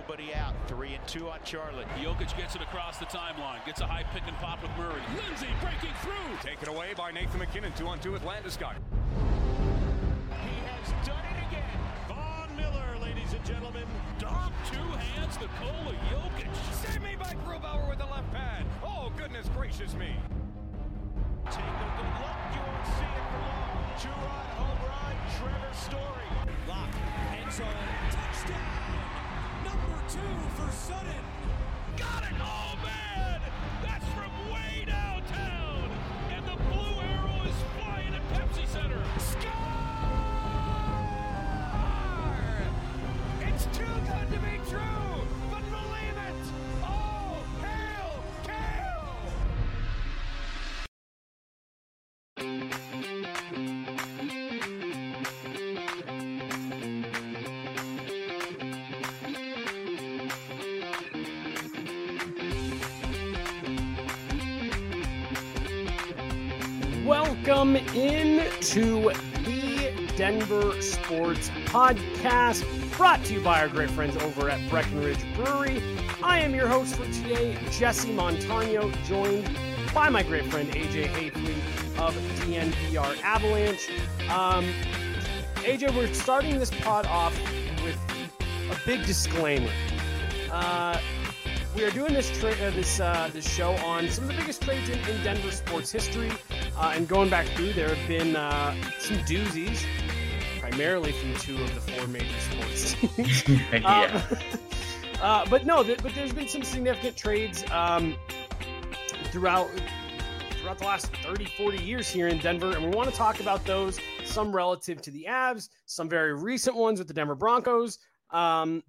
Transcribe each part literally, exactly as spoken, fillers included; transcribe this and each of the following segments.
nobody out. Three and two on Charlotte. Jokic gets it across the timeline. Gets a high pick and pop with Murray. Lindsay breaking through. Taken away by Nathan McKinnon. Two on two with Landeskog. He has done it again. Von Miller, ladies and gentlemen. Dog two hands Nikola Jokic. Save me by Grubauer with the left pad. Oh, goodness gracious me. Take a good look. You won't see it for long. Two-run home run. Trevor Story. Lock. End zone. Touchdown. Number two for Sutton. Got it. Oh, man. That's from way downtown. And the blue arrow is flying at Pepsi Center. Score! It's too good to be true. But believe it. Oh, hail, Kale! Welcome into the Denver Sports Podcast, brought to you by our great friends over at Breckenridge Brewery. I am your host for today, Jesse Montano, joined by my great friend A J Hayfley of D N V R Avalanche. Um, A J, we're starting this pod off with a big disclaimer. Uh, we are doing this tra- uh, this uh, this show on some of the biggest trades in, in Denver sports history. Uh, and going back through, there have been uh, some doozies, primarily from two of the four major sports teams. yeah. um, uh, but no, th- but there's been some significant trades um, throughout throughout the last thirty, forty years here in Denver, and we want to talk about those, some relative to the Avs, some very recent ones with the Denver Broncos. Um,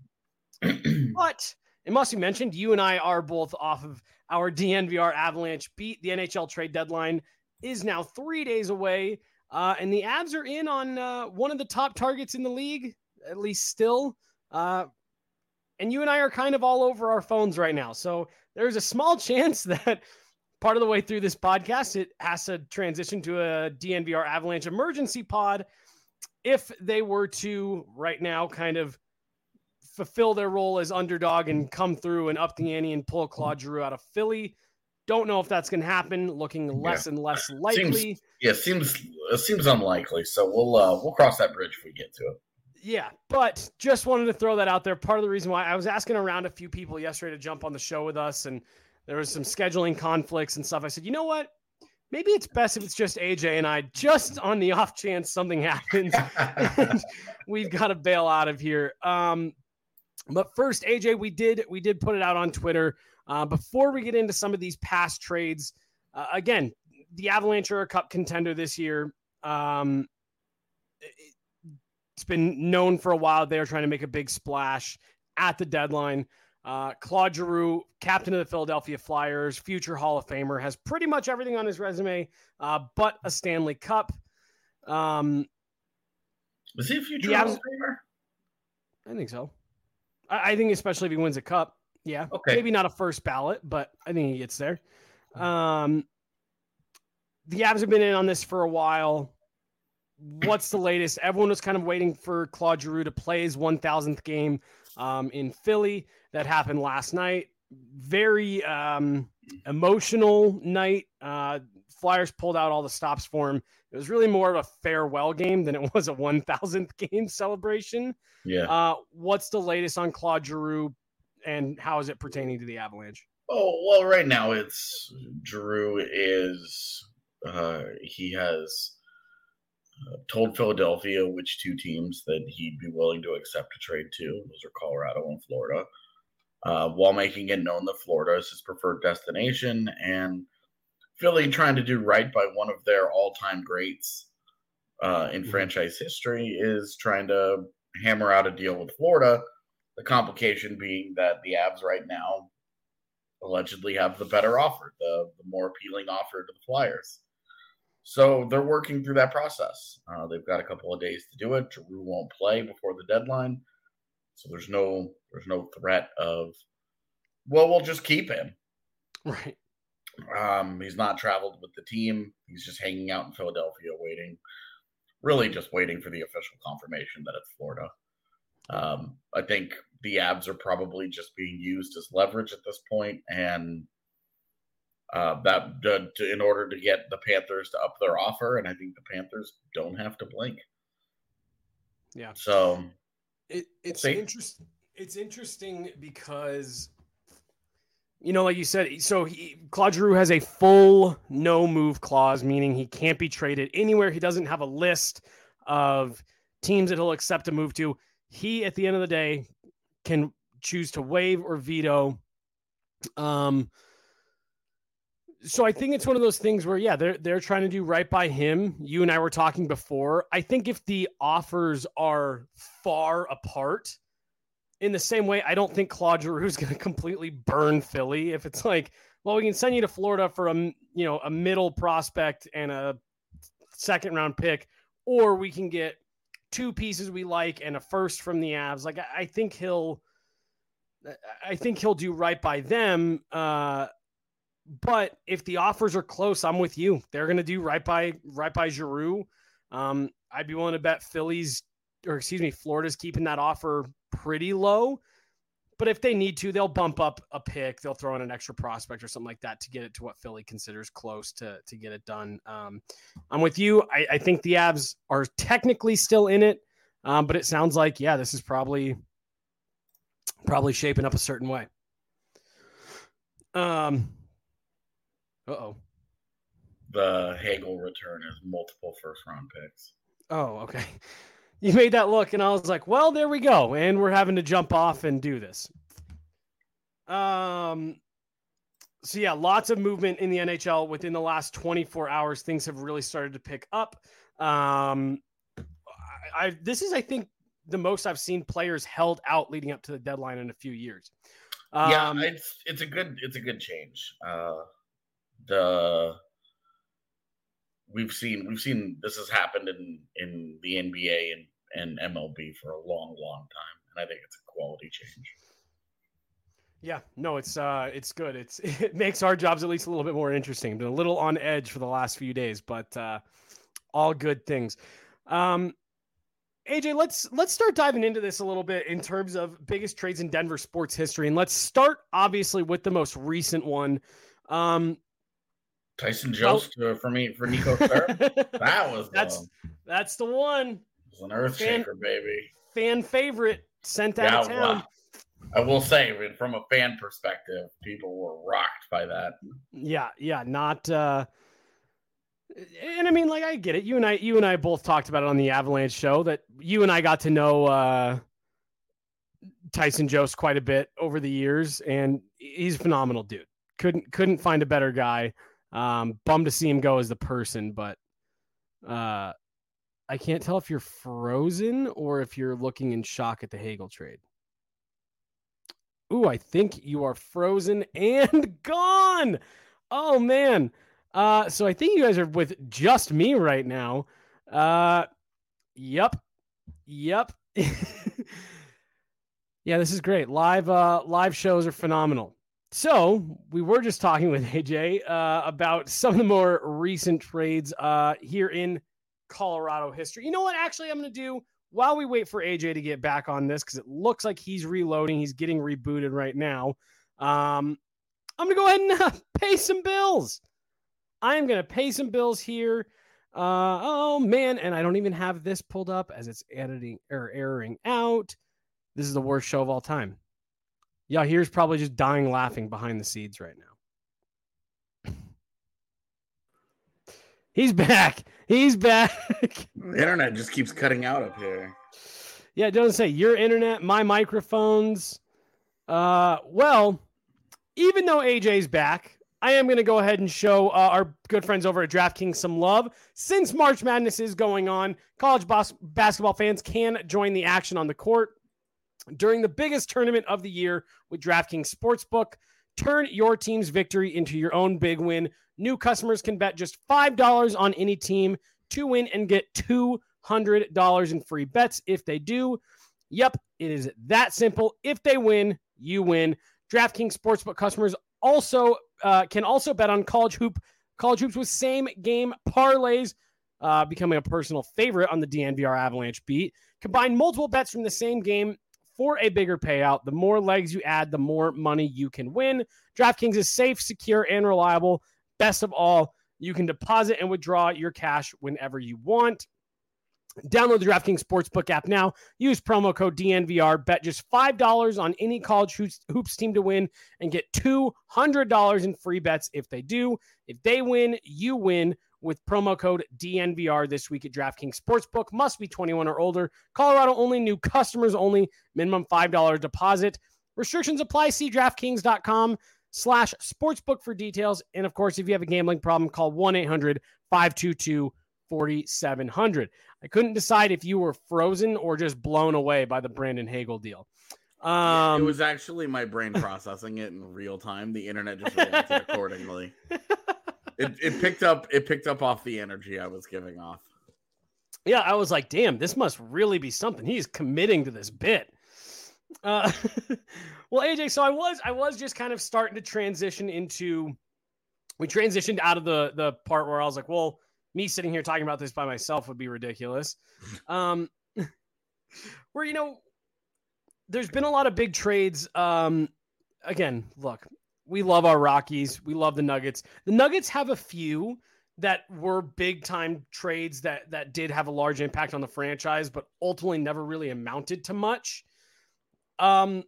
but it must be mentioned, you and I are both off of our D N V R Avalanche beat. The N H L trade deadline is now three days away, uh, and the Avs are in on uh, one of the top targets in the league, at least still. Uh, and you and I are kind of all over our phones right now. So there's a small chance that part of the way through this podcast, it has to transition to a D N V R Avalanche emergency pod if they were to right now kind of fulfill their role as underdog and come through and up the ante and pull Claude Giroux out of Philly. Don't know if that's going to happen. Looking less yeah. and less likely. Seems, yeah, seems it seems unlikely. So we'll uh, we'll cross that bridge if we get to it. Yeah, but just wanted to throw that out there. Part of the reason why I was asking around a few people yesterday to jump on the show with us, and there was some scheduling conflicts and stuff. I said, you know what? Maybe it's best if it's just A J and I, just on the off chance something happens. and we've got to bail out of here. Um, but first, A J, we did we did put it out on Twitter. Uh, before we get into some of these past trades, uh, again, the Avalanche are a cup contender this year. Um, it, it's been known for a while they're trying to make a big splash at the deadline. Uh, Claude Giroux, captain of the Philadelphia Flyers, future Hall of Famer, has pretty much everything on his resume, uh, but a Stanley Cup. Um, Is he a future Hall of Famer? I think so. I, I think especially if he wins a cup. Yeah, okay. Maybe not a first ballot, but I think he gets there. Um, the Avs have been in on this for a while. What's the latest? Everyone was kind of waiting for Claude Giroux to play his one thousandth game um, in Philly. That happened last night. Very um, emotional night. Uh, Flyers pulled out all the stops for him. It was really more of a farewell game than it was a one thousandth game celebration. Yeah. Uh, what's the latest on Claude Giroux? And how is it pertaining to the Avalanche? Oh, well, right now it's Giroux is uh, he has uh, told Philadelphia which two teams that he'd be willing to accept a trade to. Those are Colorado and Florida, uh, while making it known that Florida is his preferred destination, and Philly, trying to do right by one of their all-time greats uh, in mm-hmm. franchise history, is trying to hammer out a deal with Florida. The complication being that the Avs right now allegedly have the better offer, the, the more appealing offer to the Flyers. So they're working through that process. Uh, they've got a couple of days to do it. Giroux won't play before the deadline, so there's no there's no threat of, well, we'll just keep him. Right. Um, he's not traveled with the team. He's just hanging out in Philadelphia, waiting, really just waiting for the official confirmation that it's Florida. Um, I think the Avs are probably just being used as leverage at this point, and uh, that uh, to, in order to get the Panthers to up their offer, and I think the Panthers don't have to blink. Yeah. So it, it's we'll interesting. It's interesting because, you know, like you said, so he, Claude Giroux has a full no move clause, meaning he can't be traded anywhere. He doesn't have a list of teams that he'll accept a move to. He, at the end of the day, can choose to waive or veto. Um, so I think it's one of those things where, yeah, they're, they're trying to do right by him. You and I were talking before. I think if the offers are far apart, in the same way, I don't think Claude Giroux is going to completely burn Philly. If it's like, well, we can send you to Florida for a, you know, a middle prospect and a second round pick, or we can get two pieces we like and a first from the Avs. Like, I think he'll, I think he'll do right by them. Uh, but if the offers are close, I'm with you. They're going to do right by, right by Giroux. Um, I'd be willing to bet Philly's, or excuse me, Florida's keeping that offer pretty low. But if they need to, they'll bump up a pick. They'll throw in an extra prospect or something like that to get it to what Philly considers close to, to get it done. Um, I'm with you. I, I think the Avs are technically still in it, um, but it sounds like, yeah, this is probably probably shaping up a certain way. Um. Uh-oh. The Hagel return is multiple first-round picks. Oh, okay. You made that look, and I was like, well, there we go. And we're having to jump off and do this. Um. So, yeah, lots of movement in the N H L within the last twenty-four hours. Things have really started to pick up. Um, I, I This is, I think, the most I've seen players held out leading up to the deadline in a few years. Um, yeah, it's it's a good it's a good change. Uh, the We've seen we've seen this has happened in, in the N B A and, and M L B for a long, long time, and I think it's a quality change. Yeah, no, it's uh, it's good. It's it makes our jobs at least a little bit more interesting. Been a little on edge for the last few days, but uh, all good things. Um, A J, let's let's start diving into this a little bit in terms of biggest trades in Denver sports history, and let's start obviously with the most recent one. Um, Tyson Jost well, for me for Nico Sturm. That was that's the, that's the one. It was an earth fan, shaker, baby. Fan favorite sent out yeah, of town. Wow. I will say, from a fan perspective, people were rocked by that. Yeah, yeah, not. Uh, and I mean, like, I get it. You and I, you and I both talked about it on the Avalanche show that you and I got to know uh, Tyson Jost quite a bit over the years, and he's a phenomenal dude. Couldn't couldn't find a better guy. Um, bummed to see him go as the person, but uh, I can't tell if you're frozen or if you're looking in shock at the Hagel trade. Ooh, I think you are frozen and gone. Oh, man. Uh, so I think you guys are with just me right now. Uh, yep. Yep. Yeah, this is great. Live, uh, live shows are phenomenal. So we were just talking with A J uh, about some of the more recent trades uh, here in Colorado history. You know what? Actually, I'm going to do while we wait for A J to get back on this, because it looks like he's reloading. He's getting rebooted right now. Um, I'm going to go ahead and uh, pay some bills. I'm going to pay some bills here. Uh, oh, man. And I don't even have this pulled up as it's editing or erroring out. This is the worst show of all time. Yeah, here's probably just dying laughing behind the scenes right now. He's back. He's back. The internet just keeps cutting out up here. Yeah, it doesn't say your internet, my microphones. Uh, well, even though A J's back, I am going to go ahead and show uh, our good friends over at DraftKings some love. Since March Madness is going on, college bas- basketball fans can join the action on the court during the biggest tournament of the year with DraftKings Sportsbook. Turn your team's victory into your own big win. New customers can bet just five dollars on any team to win and get two hundred dollars in free bets if they do. Yep, it is that simple. If they win, you win. DraftKings Sportsbook customers also uh, can also bet on college hoop, college hoops with same game parlays, uh, becoming a personal favorite on the D N V R Avalanche beat. Combine multiple bets from the same game for a bigger payout. The more legs you add, the more money you can win. DraftKings is safe, secure, and reliable. Best of all, you can deposit and withdraw your cash whenever you want. Download the DraftKings Sportsbook app now. Use promo code D N V R. Bet just five dollars on any college hoops, hoops team to win and get two hundred dollars in free bets if they do. If they win, you win with promo code D N V R this week at DraftKings Sportsbook. Must be twenty-one or older. Colorado only. New customers only. Minimum five dollars deposit. Restrictions apply. See DraftKings.com slash sportsbook for details. And, of course, if you have a gambling problem, call one eight hundred five two two four seven zero zero. I couldn't decide if you were frozen or just blown away by the Brandon Hagel deal. Um, yeah, it was actually my brain processing it in real time. The internet just reacted accordingly. It, it picked up. It picked up off the energy I was giving off. Yeah, I was like, "Damn, this must really be something." He's committing to this bit. Uh, well, A J, so I was, I was just kind of starting to transition into. We transitioned out of the the part where I was like, "Well, me sitting here talking about this by myself would be ridiculous." Um, where, you know, there's been a lot of big trades. Um, again, look, we love our Rockies. We love the Nuggets. The Nuggets have a few that were big time trades that, that did have a large impact on the franchise, but ultimately never really amounted to much. Um,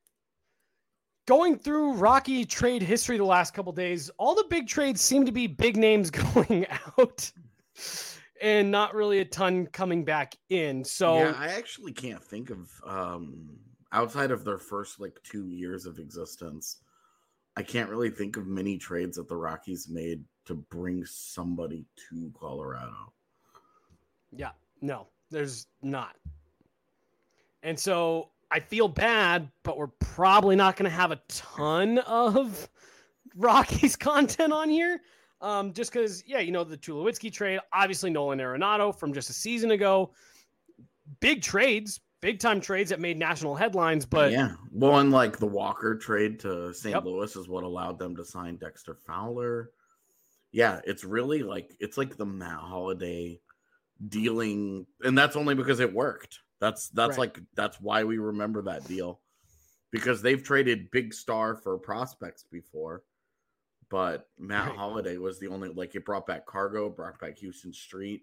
Going through Rocky trade history the last couple days, all the big trades seem to be big names going out and not really a ton coming back in. So yeah, I actually can't think of um, outside of their first like two years of existence. I can't really think of many trades that the Rockies made to bring somebody to Colorado. Yeah, no, there's not. And so I feel bad, but we're probably not going to have a ton of Rockies content on here. Um, just because, yeah, you know, the Tulowitzki trade, obviously Nolan Arenado from just a season ago. Big trades, big time trades that made national headlines. But yeah, well, and like the Walker trade to Saint Yep. Louis is what allowed them to sign Dexter Fowler. Yeah, it's really like it's like the Matt Holliday dealing, and that's only because it worked. That's that's Right. like that's why we remember that deal, because they've traded big star for prospects before, but Matt Right. Holliday was the only, like, it brought back Cargo, brought back Houston Street,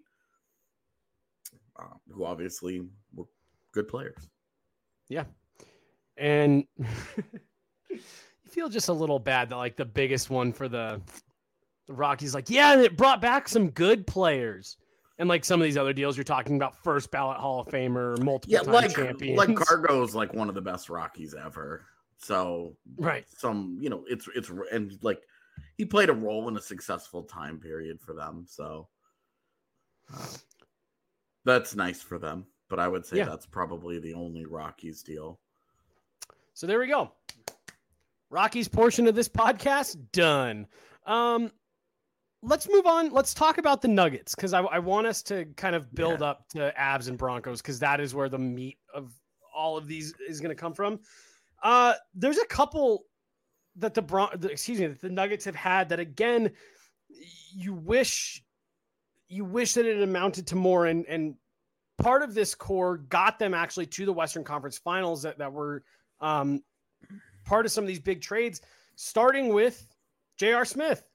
uh, who obviously were good players. yeah. And you feel just a little bad that like the biggest one for the, the Rockies, like, yeah, and it brought back some good players. And like some of these other deals, you're talking about first ballot Hall of Famer, multiple Yeah, time like champions. like Cargo's like one of the best Rockies ever. So Right. some, you know, it's it's and like he played a role in a successful time period for them. So uh, that's nice for them. But I would say Yeah. that's probably the only Rockies deal. So there we go. Rockies portion of this podcast done. Um, let's move on. Let's talk about the Nuggets, because I, I want us to kind of build Yeah. up to Avs and Broncos, because that is where the meat of all of these is going to come from. Uh, there's a couple that the, Bron- the excuse me that the Nuggets have had that, again, you wish you wish that it amounted to more, and and part of this core got them actually to the Western Conference Finals that, that were um, part of some of these big trades, starting with J R. Smith.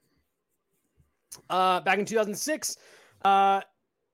Uh, back in two thousand six, uh,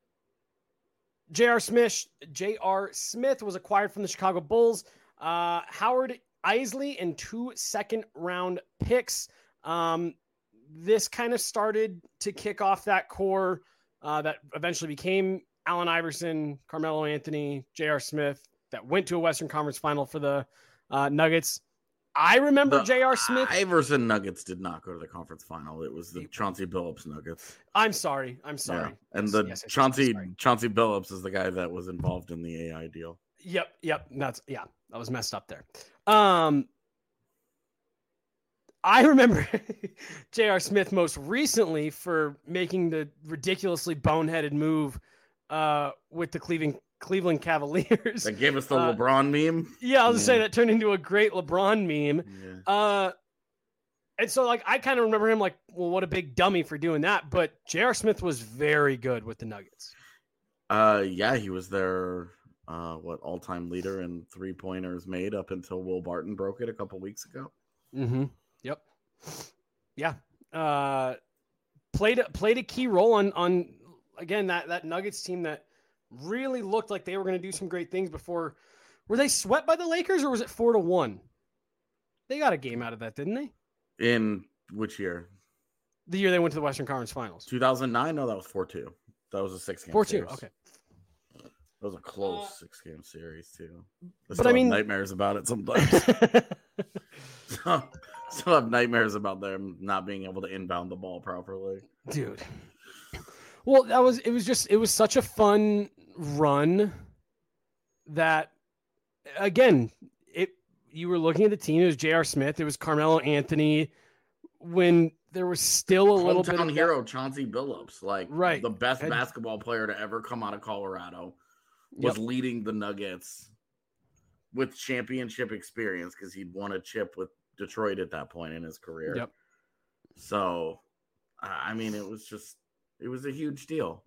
J R. Smith, J R. Smith was acquired from the Chicago Bulls. Uh, Howard Isley and two second round picks. Um, this kind of started to kick off that core uh, that eventually became Allen Iverson, Carmelo Anthony, J R. Smith, that went to a Western Conference Final for the uh, Nuggets. I remember The J R. Smith. Iverson Nuggets did not go to the conference final. It was the Chauncey Billups Nuggets. I'm sorry. I'm sorry. Yeah. And Yes, the yes, yes, yes, Chauncey sorry. Chauncey Billups is the guy that was involved in the A I deal. Yep. Yep. That's yeah. That was messed up there. Um, I remember J R. Smith most recently for making the ridiculously boneheaded move uh, with the Cleveland Cleveland Cavaliers. That gave us the Uh, LeBron meme. Yeah, I was gonna say Yeah. that turned into a great LeBron meme. Yeah. Uh, and so like I kind of remember him like, well, what a big dummy for doing that. But J R. Smith was very good with the Nuggets. Uh, yeah, he was their uh, what all-time leader in three-pointers made up until Will Barton broke it a couple weeks ago. Mm-hmm. Yep. Yeah. Uh, played played a key role on on again that that Nuggets team that really looked like they were going to do some great things before. Were they swept by the Lakers or was it four to one? They got a game out of that, didn't they? In which year? The year they went to the Western Conference Finals. two thousand nine? No, that was four two. That was a six-game four two, series. okay. That was a close Uh, six-game series, too. I but still I have mean- nightmares about it sometimes. so, still have nightmares about them not being able to inbound the ball properly. Dude. Well, that was it was just it was such a fun run that again, it you were looking at the team, it was J R. Smith, it was Carmelo Anthony when there was still a little bit Hometown of hero Chauncey Billups, like Right. the best And- basketball player to ever come out of Colorado, was Yep. leading the Nuggets with championship experience because he'd won a chip with Detroit at that point in his career. Yep. So, I mean, it was just it was a huge deal.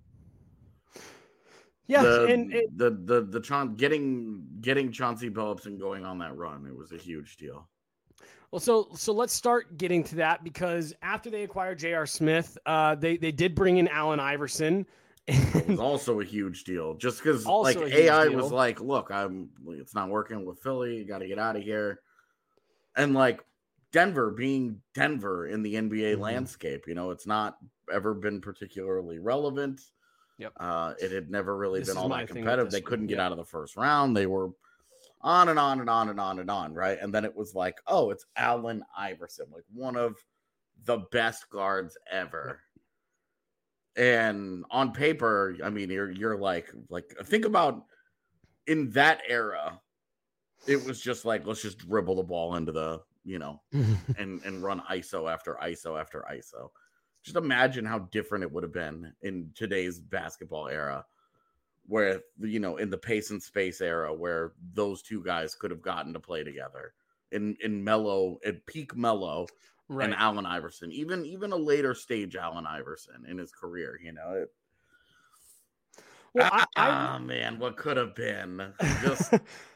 Yeah, the, and it, the the the Chaun- getting getting Chauncey Billups and going on that run, it was a huge deal. well, so so let's start getting to that because after they acquired J R. Smith, uh, they they did bring in Allen Iverson. It was also a huge deal, just because Also like a huge A I deal. was like, "Look, I'm it's not working with Philly. You got to get out of here," and like Denver being Denver in the N B A Mhm. landscape, you know, it's not ever been particularly relevant. Yep. Uh, it had never really This been is all my that thing with competitive. this They one. couldn't get Yep. out of the first round. They were on and on and on and on and on, right? And then it was like, oh, it's Allen Iverson, like one of the best guards ever. And on paper, I mean, you're you're like like think about in that era, it was just like let's just dribble the ball into the you know and and run I S O after I S O after I S O. Just imagine how different it would have been in today's basketball era, where you know in the pace and space era, where those two guys could have gotten to play together in in Melo at peak Melo. right. And Allen Iverson, even even a later stage Allen Iverson in his career, you know. It, well, I, ah, I man, what could have been? Just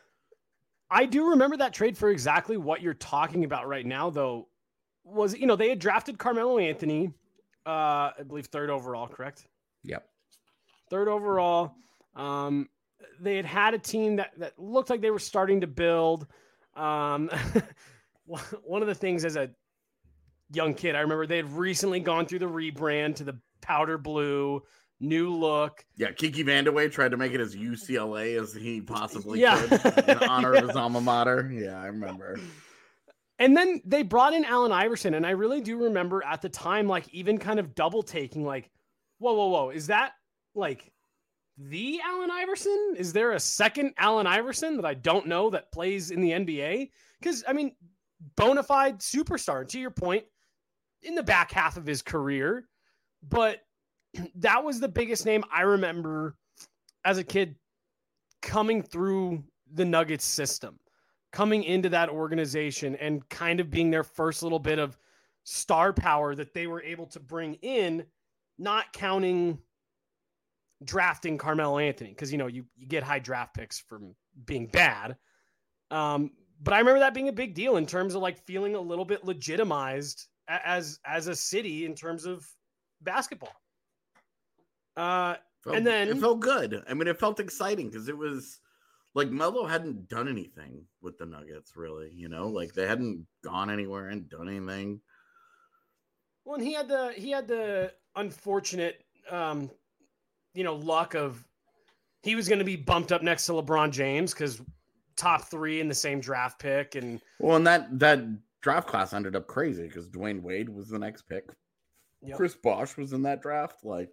I do remember that trade for exactly what you're talking about right now, though. Was you know they had drafted Carmelo Anthony, uh, I believe third overall, correct? yep. Third overall. Um, they had had a team that that looked like they were starting to build. Um, one of the things as a young kid, I remember they had recently gone through the rebrand to the powder blue, new look. Yeah, Kiki Vandeweghe tried to make it as U C L A as he possibly Yeah. could in honor Yeah. of his alma mater. Yeah, I remember. And then they brought in Allen Iverson, and I really do remember at the time, like even kind of double taking, like, whoa, whoa, whoa, is that like the Allen Iverson? Is there a second Allen Iverson that I don't know that plays in the N B A? Because I mean, bona fide superstar. And to your point, in the back half of his career, but that was the biggest name I remember as a kid coming through the Nuggets system, coming into that organization and kind of being their first little bit of star power that they were able to bring in, not counting drafting Carmelo Anthony. Cause you know, you, you get high draft picks from being bad. Um, but I remember that being a big deal in terms of like feeling a little bit legitimized a- as, as a city in terms of basketball. Uh, Felt- And then- it felt good. I mean, it felt exciting because it was like Melo hadn't done anything with the Nuggets, really. You know, like they hadn't gone anywhere and done anything. Well, and he had the he had the unfortunate, um, you know, luck of he was going to be bumped up next to LeBron James because top three in the same draft pick, and Well, and that that draft class ended up crazy because Dwayne Wade was the next pick. Yep. Chris Bosh was in that draft. Like,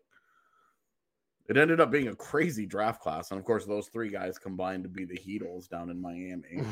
it ended up being a crazy draft class, and of course, those three guys combined to be the Heatles down in Miami.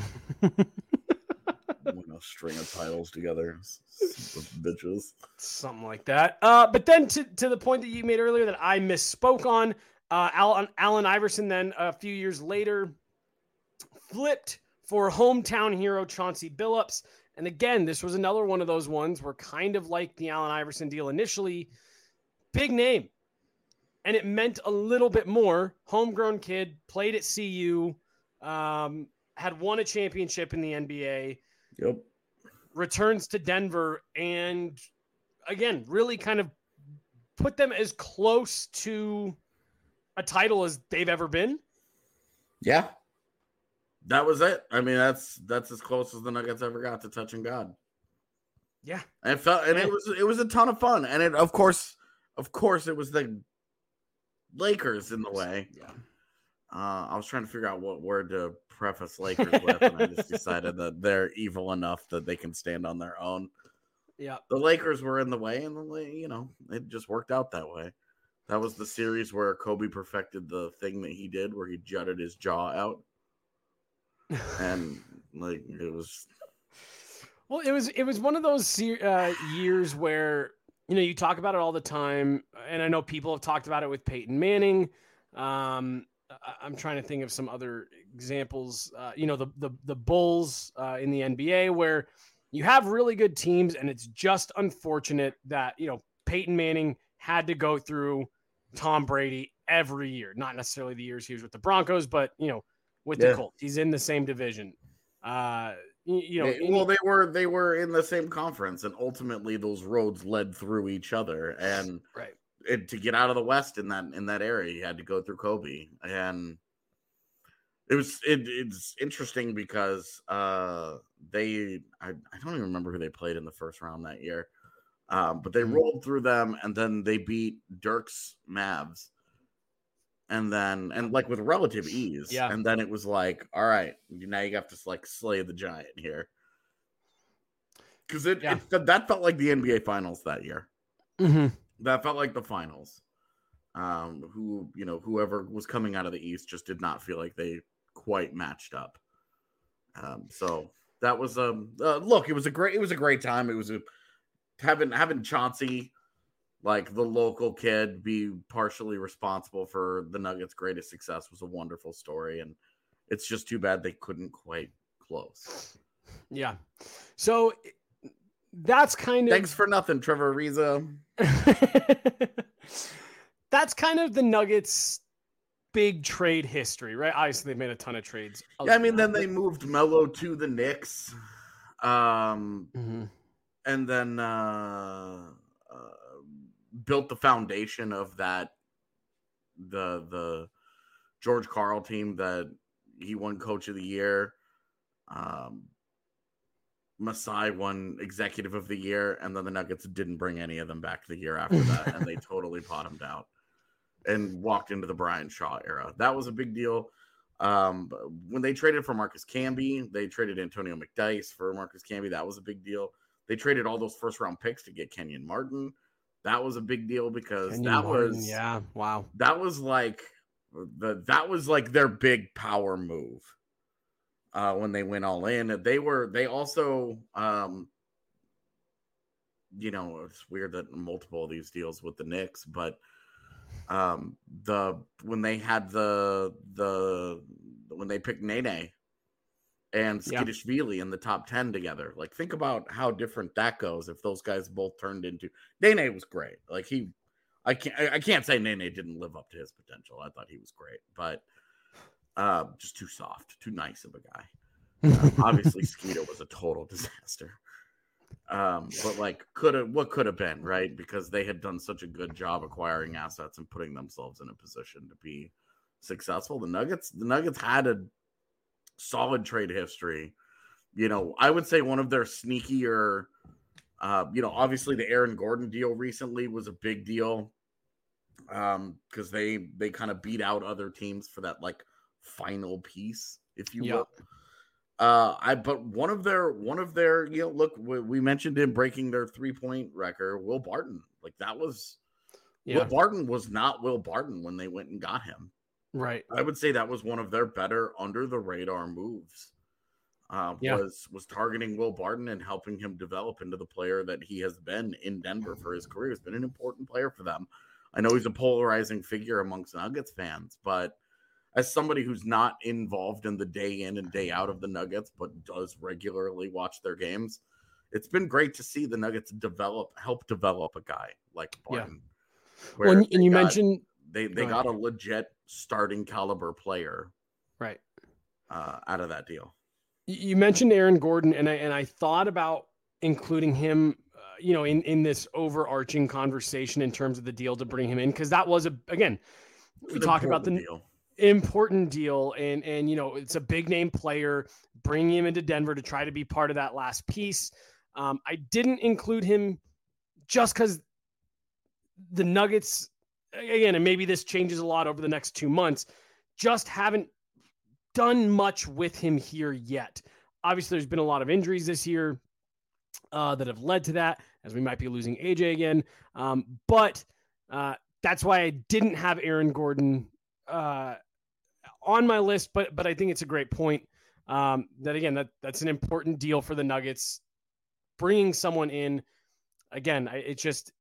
Win a string of titles together, Son of bitches. something like that. Uh, but then to to the point that you made earlier that I misspoke on, uh, Allen, Allen Iverson then a few years later flipped for hometown hero Chauncey Billups. And again, this was another one of those ones where kind of like the Allen Iverson deal initially, big name, and it meant a little bit more. Homegrown kid, played at C U, um, had won a championship in the N B A. Yep. Returns to Denver, and again, really kind of put them as close to a title as they've ever been. Yeah. That was it. I mean, that's that's as close as the Nuggets ever got to touching God. Yeah. And it felt and Yeah. it was it was a ton of fun. And it of course, of course it was the Lakers in the way. Yeah. Uh, I was trying to figure out what word to preface Lakers with, and I just decided that they're evil enough that they can stand on their own. Yeah. The Lakers were in the way, and the you know it just worked out that way. That was the series where Kobe perfected the thing that he did, where he jutted his jaw out, and like it was. Well, it was it was one of those se- uh, years where, you know, you talk about it all the time, and I know people have talked about it with Peyton Manning. Um, I- I'm trying to think of some other examples. Uh, you know, the the the Bulls uh, in the N B A, where you have really good teams, and it's just unfortunate that, you know, Peyton Manning had to go through Tom Brady every year. Not necessarily the years he was with the Broncos, but, you know, with Yeah. the Colts, he's in the same division. Uh, you, you know, They- well, they were they were in the same conference, and ultimately those roads led through each other. And right. it, to get out of the West in that in that area, you had to go through Kobe, and it was it, it's interesting because uh, they I, I don't even remember who they played in the first round that year, um, but they Mhm. rolled through them, and then they beat Dirk's Mavs, and then and like with relative ease, Yeah. and then it was like, all right, now you have to like slay the giant here, because it, Yeah. it that felt like the N B A Finals that year. Mm-hmm. That felt like the finals. Um, who you know, whoever was coming out of the East just did not feel like they quite matched up. Um, so that was um uh, look, it was a great it was a great time. It was a having having Chauncey, like the local kid, be partially responsible for the Nuggets' greatest success was a wonderful story, and it's just too bad they couldn't quite close. Yeah. So that's kind of Thanks for nothing, Trevor Ariza. that's kind of the Nuggets' big trade history, right? Obviously, they've made a ton of trades. Yeah, I mean, then they moved Melo to the Knicks, um, Mm-hmm. and then uh, uh, built the foundation of that the the George Karl team that he won Coach of the Year. Um, Masai won Executive of the Year, and then the Nuggets didn't bring any of them back the year after that, and they totally bottomed out and walked into the Brian Shaw era. That was a big deal. Um, when they traded for Marcus Camby, they traded Antonio McDyess for Marcus Camby. That was a big deal. They traded all those first round picks to get Kenyon Martin. That was a big deal because Kenyon that Martin, was yeah, wow. that was like the that was like their big power move. Uh, when they went all in, they were they also um, you know, it's weird that multiple of these deals with the Knicks, but um, the when they had the the when they picked Nene and Yeah. Skidishvili in the top ten together, like think about how different that goes if those guys both turned into. Nene was great, like he, I can't I can't say Nene didn't live up to his potential. I thought he was great, but. Uh, just too soft, too nice of a guy. Um, obviously, Skeeter was a total disaster. Um, but like, could have what could have been, right? Because they had done such a good job acquiring assets and putting themselves in a position to be successful. The Nuggets, the Nuggets had a solid trade history. You know, I would say one of their sneakier. Uh, you know, obviously the Aaron Gordon deal recently was a big deal. Um, because they they kind of beat out other teams for that like final piece, if you Yeah. will. Uh, I but one of their one of their you know look we, we mentioned him breaking their three point record. Will Barton, like that was Yeah, Will Barton was not Will Barton when they went and got him. right. I would say that was one of their better under the radar moves. Uh, Yeah. Was was targeting Will Barton and helping him develop into the player that he has been in Denver for his career. He's been an important player for them. I know he's a polarizing figure amongst Nuggets fans, but as somebody who's not involved in the day in and day out of the Nuggets, but does regularly watch their games, it's been great to see the Nuggets develop, help develop a guy like Barton. Well, and, they and you got- mentioned They they got a legit starting caliber player, right, uh, out of that deal. You mentioned Aaron Gordon, and I and I thought about including him, uh, you know, in in this overarching conversation in terms of the deal to bring him in, because that was a again, we talk about the deal. important deal, and and you know, it's a big name player, bringing him into Denver to try to be part of that last piece. Um, I didn't include him just because the Nuggets, again, and maybe this changes a lot over the next two months, just haven't done much with him here yet. Obviously, there's been a lot of injuries this year uh, that have led to that, as we might be losing A J again. Um, but uh, that's why I didn't have Aaron Gordon uh, on my list. But but I think it's a great point. Um, that again, that that's an important deal for the Nuggets. Bringing someone in, again, I, it's just,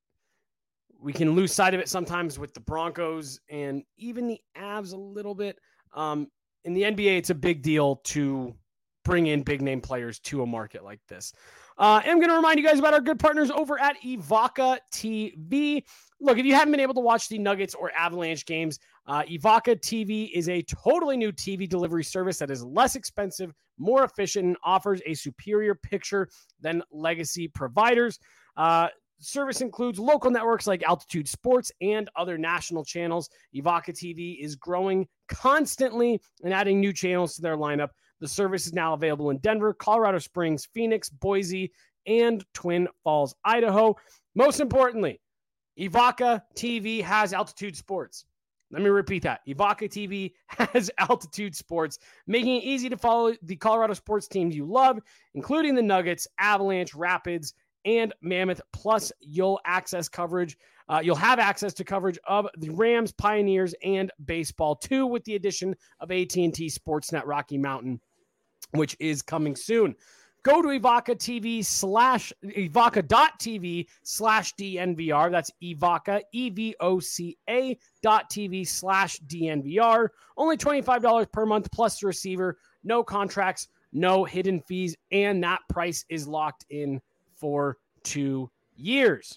we can lose sight of it sometimes with the Broncos and even the Avs a little bit. Um, in the N B A, it's a big deal to bring in big name players to a market like this. Uh, I'm going to remind you guys about our good partners over at Evoca T V. Look, if you haven't been able to watch the Nuggets or Avalanche games, uh, Evoca T V is a totally new T V delivery service that is less expensive, more efficient, and offers a superior picture than legacy providers. Uh, Service includes local networks like Altitude Sports and other national channels. Evoca T V is growing constantly and adding new channels to their lineup. The service is now available in Denver, Colorado Springs, Phoenix, Boise, and Twin Falls, Idaho. Most importantly, Evoca T V has Altitude Sports. Let me repeat that. Evoca T V has Altitude Sports, making it easy to follow the Colorado sports teams you love, including the Nuggets, Avalanche, Rapids, and Mammoth. Plus, you'll access coverage. Uh, you'll have access to coverage of the Rams, Pioneers, and baseball too, with the addition of A T and T Sportsnet Rocky Mountain, which is coming soon. Go to Evoca T V slash evoca.tv slash DNVR. That's Evoca, E V O C A dot TV slash DNVR. Only twenty-five dollars per month plus the receiver. No contracts, no hidden fees, and that price is locked in for two years.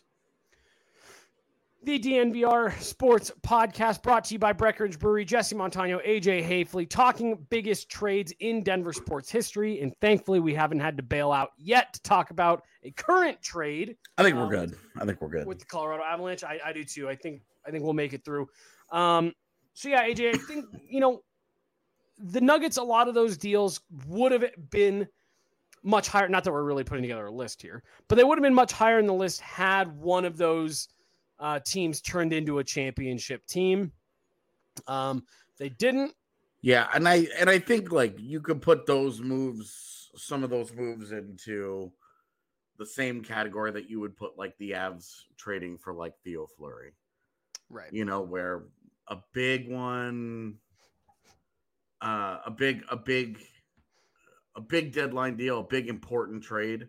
The D N V R Sports Podcast brought to you by Breckenridge Brewery, Jesse Montano, A J Hafley, talking biggest trades in Denver sports history. And thankfully, we haven't had to bail out yet to talk about a current trade. I think we're um, good. I think we're good. With the Colorado Avalanche. I, I do too. I think I think we'll make it through. Um, so, yeah, A J, I think, you know, the Nuggets, a lot of those deals would have been much higher. Not that we're really putting together a list here, but they would have been much higher in the list had one of those Uh, teams turned into a championship team. Um, they didn't. Yeah, and I and I think like you could put those moves, some of those moves, into the same category that you would put like the Avs trading for like Theo Fleury, right? You know, where a big one, uh, a big, a big, a big deadline deal, a big important trade,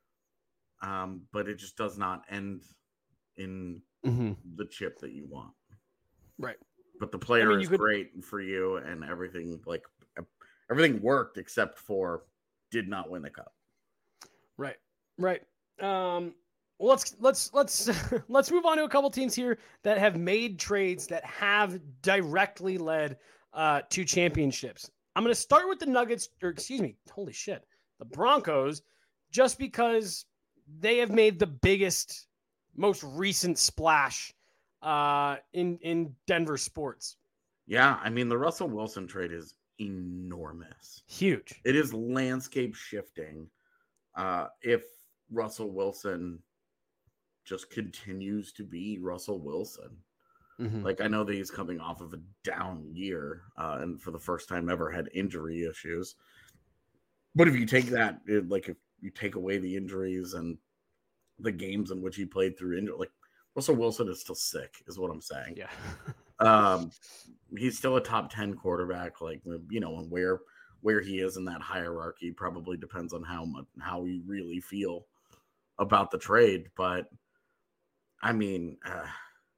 um, but it just does not end in mm-hmm. the chip that you want. Right. But the player I mean, is could... great for you and everything, like everything worked except for did not win the cup. Right. Right. Um, well, let's, let's, let's, let's move on to a couple teams here that have made trades that have directly led uh, to championships. I'm going to start with the Nuggets, or excuse me, holy shit, the Broncos, just because they have made the biggest, most recent splash uh, in, in Denver sports. Yeah. I mean, the Russell Wilson trade is enormous. Huge. It is landscape shifting. Uh, if Russell Wilson just continues to be Russell Wilson. Mm-hmm. Like, I know that he's coming off of a down year uh, and for the first time ever had injury issues. But if you take that, it, like if you take away the injuries and the games in which he played through injury, like Russell Wilson is still sick, is what I'm saying. Yeah. um, he's still a top ten quarterback, like, you know, and where where he is in that hierarchy probably depends on how much how you really feel about the trade. But I mean, uh,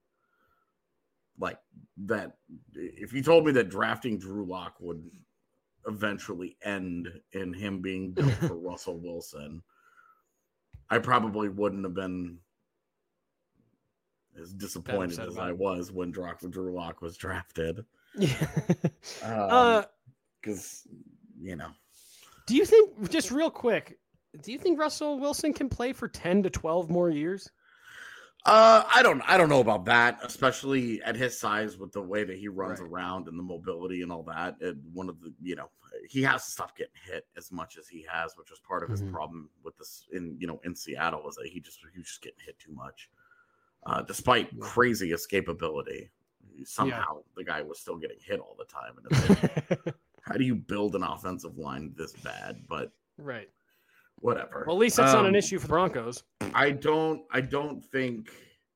like that, if you told me that drafting Drew Lock would eventually end in him being built for Russell Wilson, I probably wouldn't have been as disappointed as I was when Drew Lock was drafted. Yeah. um, because uh, you know. Do you think, just real quick, do you think Russell Wilson can play for ten to twelve more years? Uh, I don't, I don't know about that, especially at his size with the way that he runs Right. around and the mobility and all that. And one of the, you know, he has to stop getting hit as much as he has, which was part of his Mm-hmm. problem with this in, you know, in Seattle, was that he just, he was just getting hit too much. Uh, despite yeah. crazy escapability, somehow yeah. the guy was still getting hit all the time. And it's like, how do you build an offensive line this bad? But right. Whatever. Well, at least that's um, not an issue for the Broncos. I don't. I don't think.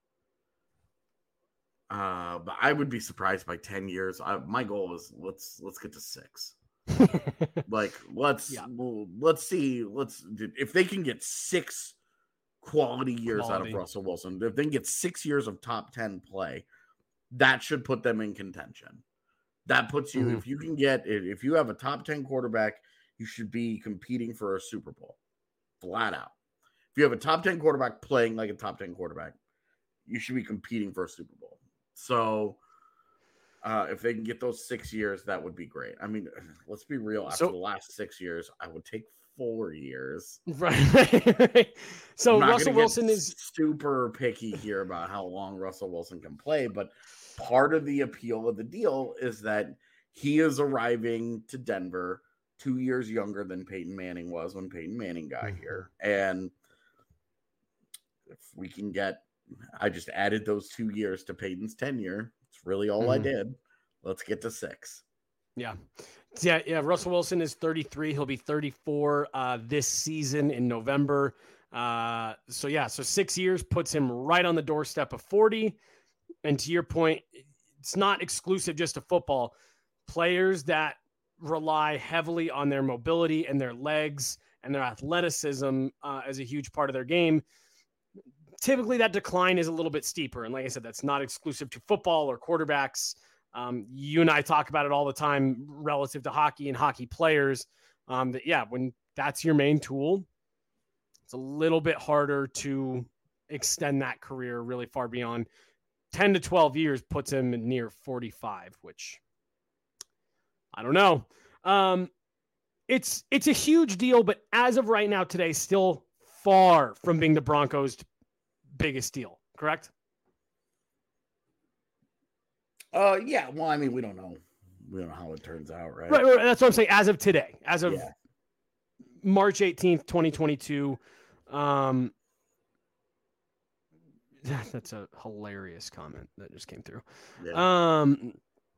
Uh, but I would be surprised by ten years. I, my goal is let's let's get to six. like let's yeah. well, let's see. Let's if they can get six quality years quality. out of Russell Wilson. If they can get six years of top ten play, that should put them in contention. That puts you. Mm-hmm. If you can get if you have a top ten quarterback, you should be competing for a Super Bowl. Flat out. If you have a top ten quarterback playing like a top ten quarterback, you should be competing for a Super Bowl. So uh, if they can get those six years, that would be great. I mean, let's be real. After so, the last six years, I would take four years. Right. So Russell Wilson is super picky here about how long Russell Wilson can play. But part of the appeal of the deal is that he is arriving to Denver two years younger than Peyton Manning was when Peyton Manning got mm-hmm. here. And if we can get, I just added those two years to Peyton's tenure. It's really all mm-hmm. I did. Let's get to six. Yeah. Yeah. Yeah. Russell Wilson is thirty-three. He'll be thirty-four uh, this season in November. Uh, so yeah, so six years puts him right on the doorstep of forty. And to your point, it's not exclusive just to football. Players that rely heavily on their mobility and their legs and their athleticism uh, as a huge part of their game. Typically that decline is a little bit steeper. And like I said, that's not exclusive to football or quarterbacks. Um, you and I talk about it all the time relative to hockey and hockey players. Um, that, yeah, when that's your main tool, it's a little bit harder to extend that career really far beyond. ten to twelve years puts him near forty-five, which I don't know. Um, it's it's a huge deal, but as of right now today, still far from being the Broncos' biggest deal, correct? Uh, yeah. Well, I mean, we don't know. We don't know how it turns out, right? Right. right that's what I'm saying. As of today, as of yeah. March eighteenth, twenty twenty-two. Um, that's a hilarious comment that just came through. Yeah. Um,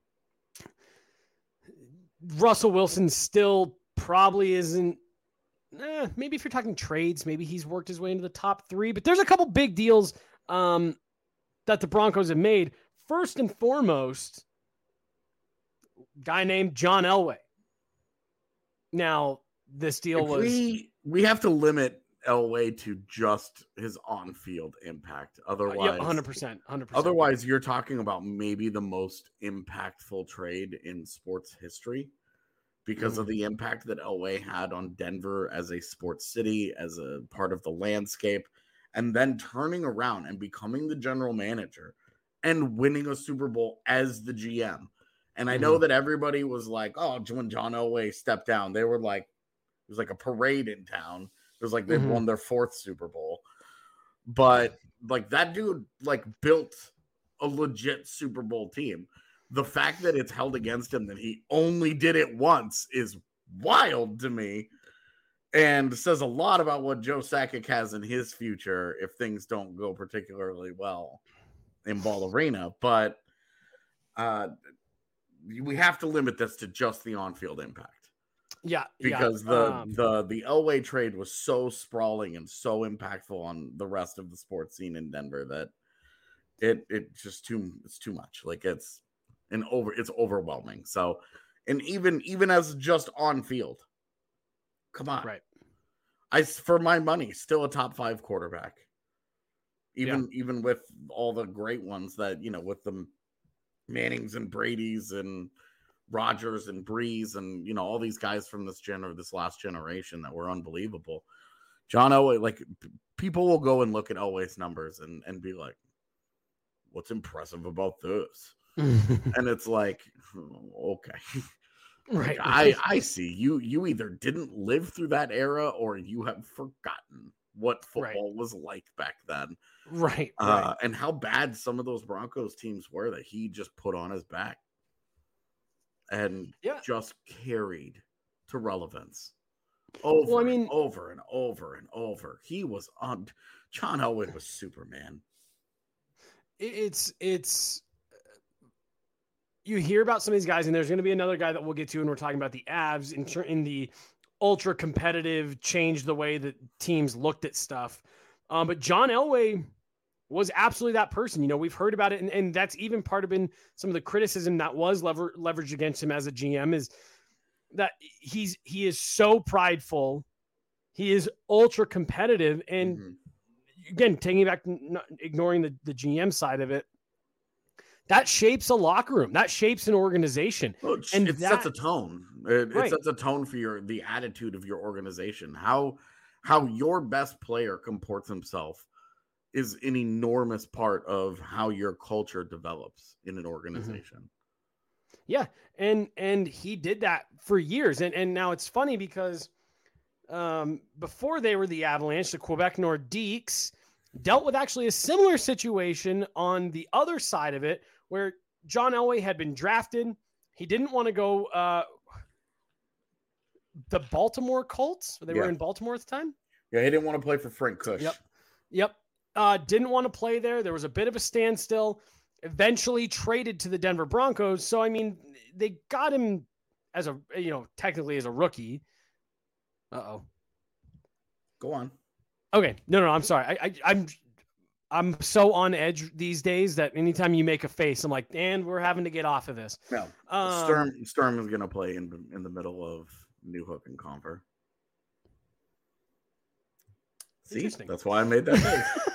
Russell Wilson still probably isn't. Eh, maybe if you're talking trades, maybe he's worked his way into the top three. But there's a couple big deals um, that the Broncos have made. First and foremost, guy named John Elway. Now, this deal if was we we have to limit Elway to just his on-field impact. Otherwise, uh, yeah, one hundred percent, one hundred percent. Otherwise, you're talking about maybe the most impactful trade in sports history because mm-hmm. of the impact that Elway had on Denver as a sports city, as a part of the landscape, and then turning around and becoming the general manager and winning a Super Bowl as the G M. And I know mm-hmm. that everybody was like, oh, when John Elway stepped down, they were like, it was like a parade in town. It was like they mm-hmm. won their fourth Super Bowl. But like that dude like built a legit Super Bowl team. The fact that it's held against him that he only did it once is wild to me and says a lot about what Joe Sakic has in his future if things don't go particularly well in Ball Arena. But uh, we have to limit this to just the on-field impact. Yeah, because yeah. the Um, the the Elway trade was so sprawling and so impactful on the rest of the sports scene in Denver that it it just too it's too much. Like it's an over it's overwhelming. So, and even even as just on field, come on, right? I for my money, still a top five quarterback. Even yeah. even with all the great ones that you know with the Mannings and Brady's and Rodgers and Breeze and you know all these guys from this gener this last generation that were unbelievable. John Elway, like p- people will go and look at Elway's numbers and and be like, what's impressive about this? And it's like, okay. Right. Like, I, I see you, you either didn't live through that era or you have forgotten what football right. was like back then. Right, Uh, right. and how bad some of those Broncos teams were that he just put on his back and yeah. just carried to relevance over well, I mean, and over and over and over. He was on. John Elway was Superman. It's it's. You hear about some of these guys, and there's going to be another guy that we'll get to, and we're talking about the Avs in, in the ultra competitive, change the way that teams looked at stuff. Um, but John Elway was absolutely that person. You know, we've heard about it, and, and that's even part of been some of the criticism that was lever, leveraged against him as a G M is that he's he is so prideful, he is ultra competitive, and mm-hmm. again, taking back, not ignoring the, the G M side of it, that shapes a locker room, that shapes an organization, well, it, and it that, sets a tone. It, right. it sets a tone for your the attitude of your organization. How how your best player comports himself is an enormous part of how your culture develops in an organization. Mm-hmm. Yeah. And, and he did that for years. And, and now it's funny because um, before they were the Avalanche, the Quebec Nordiques dealt with actually a similar situation on the other side of it, where John Elway had been drafted. He didn't want to go uh, the Baltimore Colts. They yeah. were in Baltimore at the time. Yeah. He didn't want to play for Frank Kush. Yep. Yep. Uh, didn't want to play there. There was a bit of a standstill. Eventually traded to the Denver Broncos. So, I mean, they got him as a, you know, technically as a rookie. Uh-oh. Go on. Okay. No, no, I'm sorry. I, I, I'm, I'm so on edge these days that anytime you make a face, I'm like, and we're having to get off of this. No. Um, Sturm, Sturm is going to play in, in the middle of New Hook and Conver. See, that's why I made that face.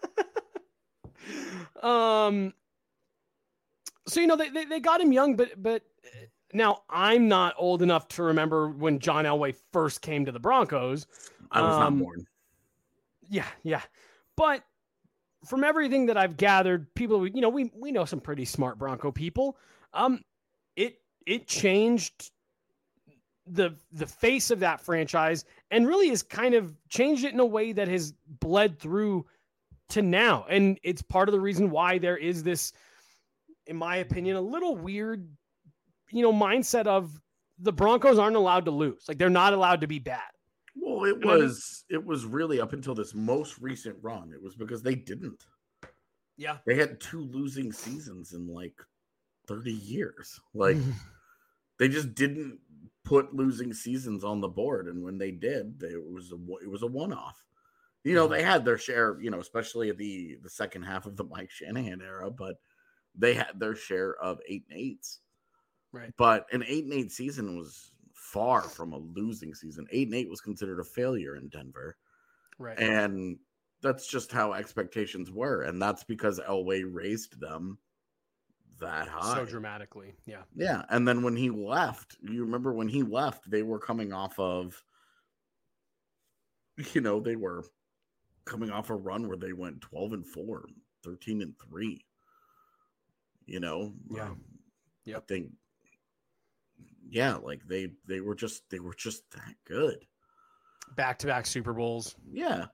Um, so, you know, they, they, they got him young, but, but now I'm not old enough to remember when John Elway first came to the Broncos. I was um, not born. Yeah. Yeah. But from everything that I've gathered, people, you know, we, we know some pretty smart Bronco people. Um, it, it changed the, the face of that franchise and really has kind of changed it in a way that has bled through to now. And it's part of the reason why there is this, in my opinion, a little weird, you know, mindset of the Broncos aren't allowed to lose. Like, they're not allowed to be bad. Well, it was, it was really up until this most recent run. It was because they didn't. Yeah. They had two losing seasons in like thirty years. Like they just didn't put losing seasons on the board. And when they did, they, it was a, it was a one-off. You know, they had their share, you know, especially at the, the second half of the Mike Shanahan era, but they had their share of eight and eights. Right. But an eight and eight season was far from a losing season. Eight and eight was considered a failure in Denver. Right. And that's just how expectations were. And that's because Elway raised them that high. So dramatically. Yeah. Yeah. And then when he left, you remember when he left, they were coming off of, you know, they were coming off a run where they went twelve and four, thirteen and three, you know? Yeah. Um, yep. I think, yeah, like they, they were just, they were just that good. Back-to-back Super Bowls. Yeah.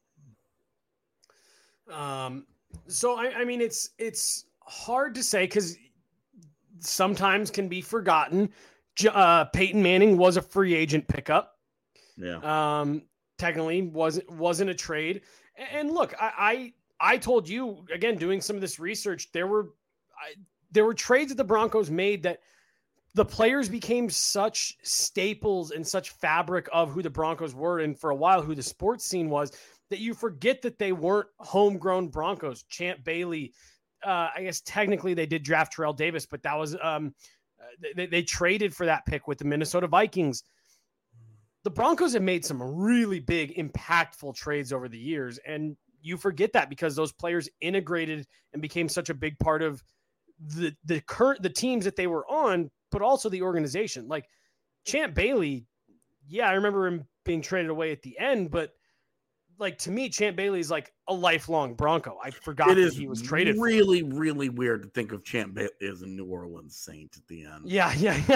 Um, so I, I mean, it's, it's hard to say because sometimes can be forgotten. Uh, Peyton Manning was a free agent pickup. Yeah. Um, technically wasn't wasn't a trade. And look, I, I I told you again, doing some of this research, there were I, there were trades that the Broncos made that the players became such staples and such fabric of who the Broncos were, and for a while who the sports scene was, that you forget that they weren't homegrown Broncos. Champ Bailey, uh, I guess technically they did draft Terrell Davis, but that was um, they, they traded for that pick with the Minnesota Vikings. The Broncos have made some really big, impactful trades over the years, and you forget that because those players integrated and became such a big part of the the current the teams that they were on, but also the organization. Like Champ Bailey, yeah, I remember him being traded away at the end, but like to me, Champ Bailey is like a lifelong Bronco. I forgot It that is he was traded. really, for. really weird to think of Champ Bailey as a New Orleans Saint at the end. Yeah, yeah, yeah.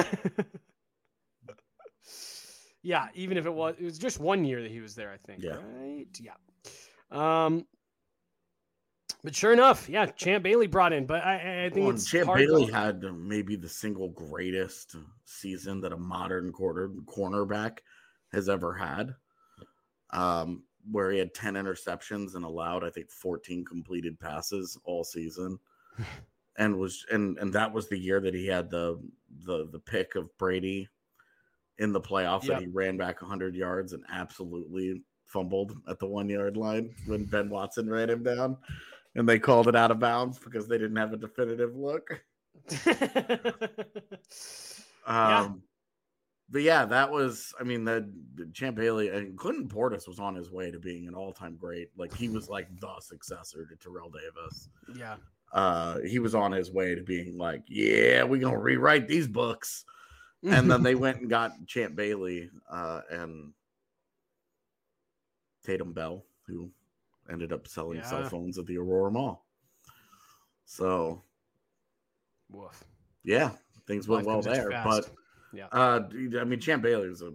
Yeah, even if it was, it was just one year that he was there, I think. Yeah. Right? Yeah. Um, but sure enough, yeah, Champ Bailey brought in, but I, I think Well, it's Champ hard Bailey to... had maybe the single greatest season that a modern quarter cornerback has ever had, um, where he had ten interceptions and allowed, I think, fourteen completed passes all season, and was and and that was the year that he had the the the pick of Brady in the playoffs Yep. that he ran back one hundred yards and absolutely fumbled at the one yard line when Ben Watson ran him down. And they called it out of bounds because they didn't have a definitive look. um, Yeah. But yeah, that was, I mean, the, the Champ Bailey and Clinton Portis was on his way to being an all time great. Like, he was like the successor to Terrell Davis. Yeah. Uh, he was on his way to being like, yeah, we're going to rewrite these books. And then they went and got Champ Bailey uh, and Tatum Bell, who ended up selling Yeah. cell phones at the Aurora Mall. So, Woof. yeah, things went Life well comes at you there. fast. But, Yeah. uh, I mean, Champ Bailey was a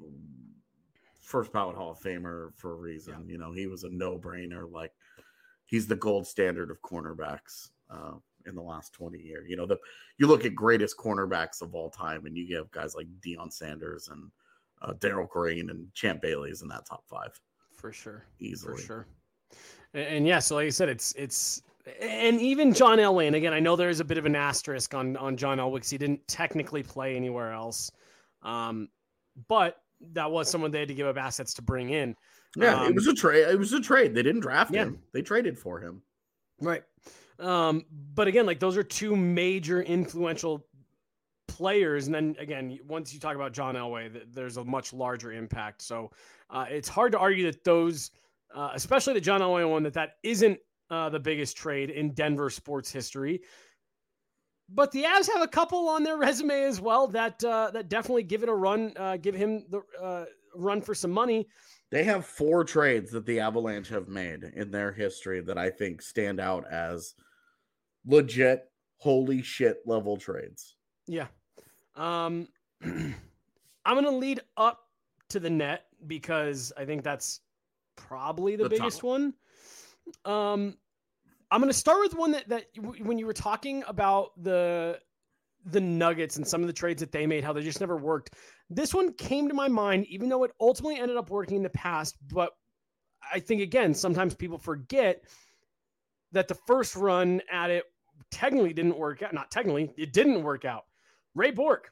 first ballot Hall of Famer for a reason. Yeah. You know, he was a no-brainer. Like, he's the gold standard of cornerbacks uh, in the last twenty years. You know, the you look at greatest cornerbacks of all time, and you have guys like Deion Sanders and uh, Darryl Green and Champ Bailey's in that top five. For sure. Easily. For sure. And, and yeah, so like I said, it's it's and even John Elway, and again, I know there's a bit of an asterisk on on John Elway because he didn't technically play anywhere else, um, but that was someone they had to give up assets to bring in. Yeah, um, it was a trade. It was a trade. They didn't draft yeah. him. They traded for him. Right. Um, but again, like those are two major influential players. And then again, once you talk about John Elway, th- there's a much larger impact. So uh, it's hard to argue that those, uh, especially the John Elway one, that that isn't uh, the biggest trade in Denver sports history. But the Avs have a couple on their resume as well that uh, that definitely give it a run, uh, give him the uh, run for some money. They have four trades that the Avalanche have made in their history that I think stand out as legit, holy shit level trades. Yeah. Um, I'm going to lead up to the net because I think that's probably the, The biggest top. one. Um, I'm going to start with one that, that w- when you were talking about the, the Nuggets and some of the trades that they made, how they just never worked. This one came to my mind, even though it ultimately ended up working in the past. But I think, again, sometimes people forget that the first run at it technically didn't work out. Not technically, it didn't work out. Ray Bourque.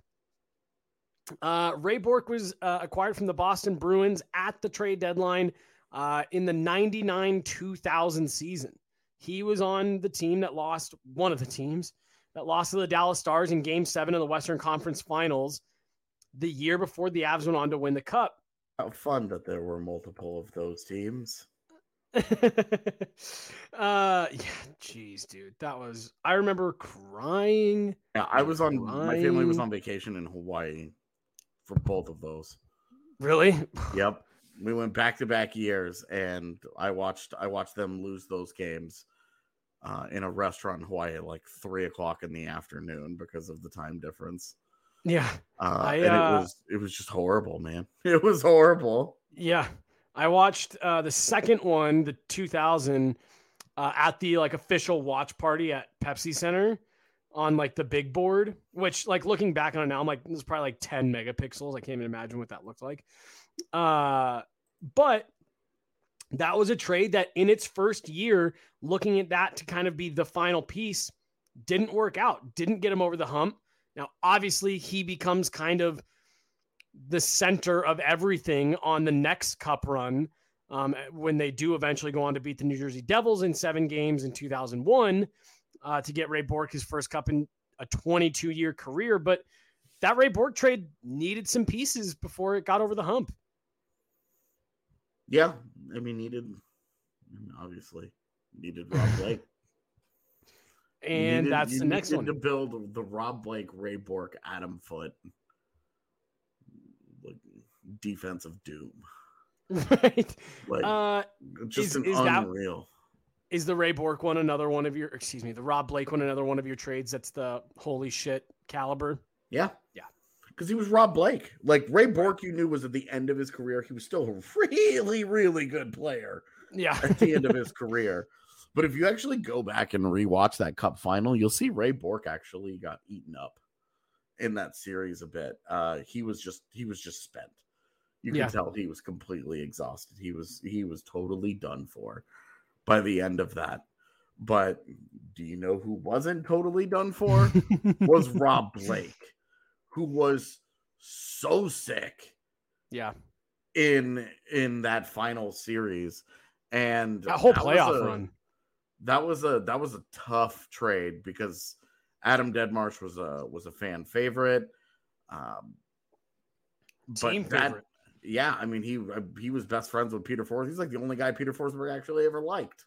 Uh, Ray Bourque was uh, acquired from the Boston Bruins at the trade deadline uh, in the ninety-nine two thousand season. He was on the team that lost, one of the teams that lost to the Dallas Stars in Game seven of the Western Conference Finals the year before the Avs went on to win the Cup. How fun that there were multiple of those teams. uh, yeah, geez, dude, that was, I remember crying. Yeah, I was on, my family was Crying. on vacation in Hawaii for both of those. Really? Yep. We went back to back years and I watched, I watched them lose those games uh, in a restaurant in Hawaii at like three o'clock in the afternoon because of the time difference. Yeah. Uh, I, and uh, it was, it was just horrible, man. It was horrible. Yeah. I watched uh, the second one, the two thousand, uh, at the like official watch party at Pepsi Center on like the big board, which like looking back on it now, I'm like, this is probably like ten megapixels. I can't even imagine what that looked like. Uh, but that was a trade that in its first year, looking at that to kind of be the final piece, didn't work out, didn't get him over the hump. Now, obviously he becomes kind of the center of everything on the next cup run um, when they do eventually go on to beat the New Jersey Devils in seven games in two thousand one uh, to get Ray Bourque his first cup in a twenty-two year career. But that Ray Bourque trade needed some pieces before it got over the hump. Yeah. I mean, needed, I mean, obviously needed Rob Blake. You And needed- that's you the next needed one. to build the Rob Blake, Ray Bourque, Adam Foote like defensive doom. Right. Like, Uh, just is- an is that- unreal. is the Ray Bork one another one of your, excuse me, the Rob Blake one another one of your trades that's the holy shit caliber? Yeah. Yeah. Because he was Rob Blake. Like, Ray Bork, you knew, was at the end of his career. He was still a really, really good player Yeah. at the end of his career. But if you actually go back and rewatch that Cup final, you'll see Ray Bork actually got eaten up in that series a bit. Uh, he was just he was just spent. You could Yeah. tell he was completely exhausted. He was he was totally done for by the end of that. But do you know who wasn't totally done for? Was Rob Blake, who was so sick Yeah. in in that final series. And That whole was playoff a- run. That was a that was a tough trade because Adam Deadmarsh was a was a fan favorite. Um, but Team that- favorite. yeah, I mean he he was best friends with Peter Forsberg. He's like the only guy Peter Forsberg actually ever liked.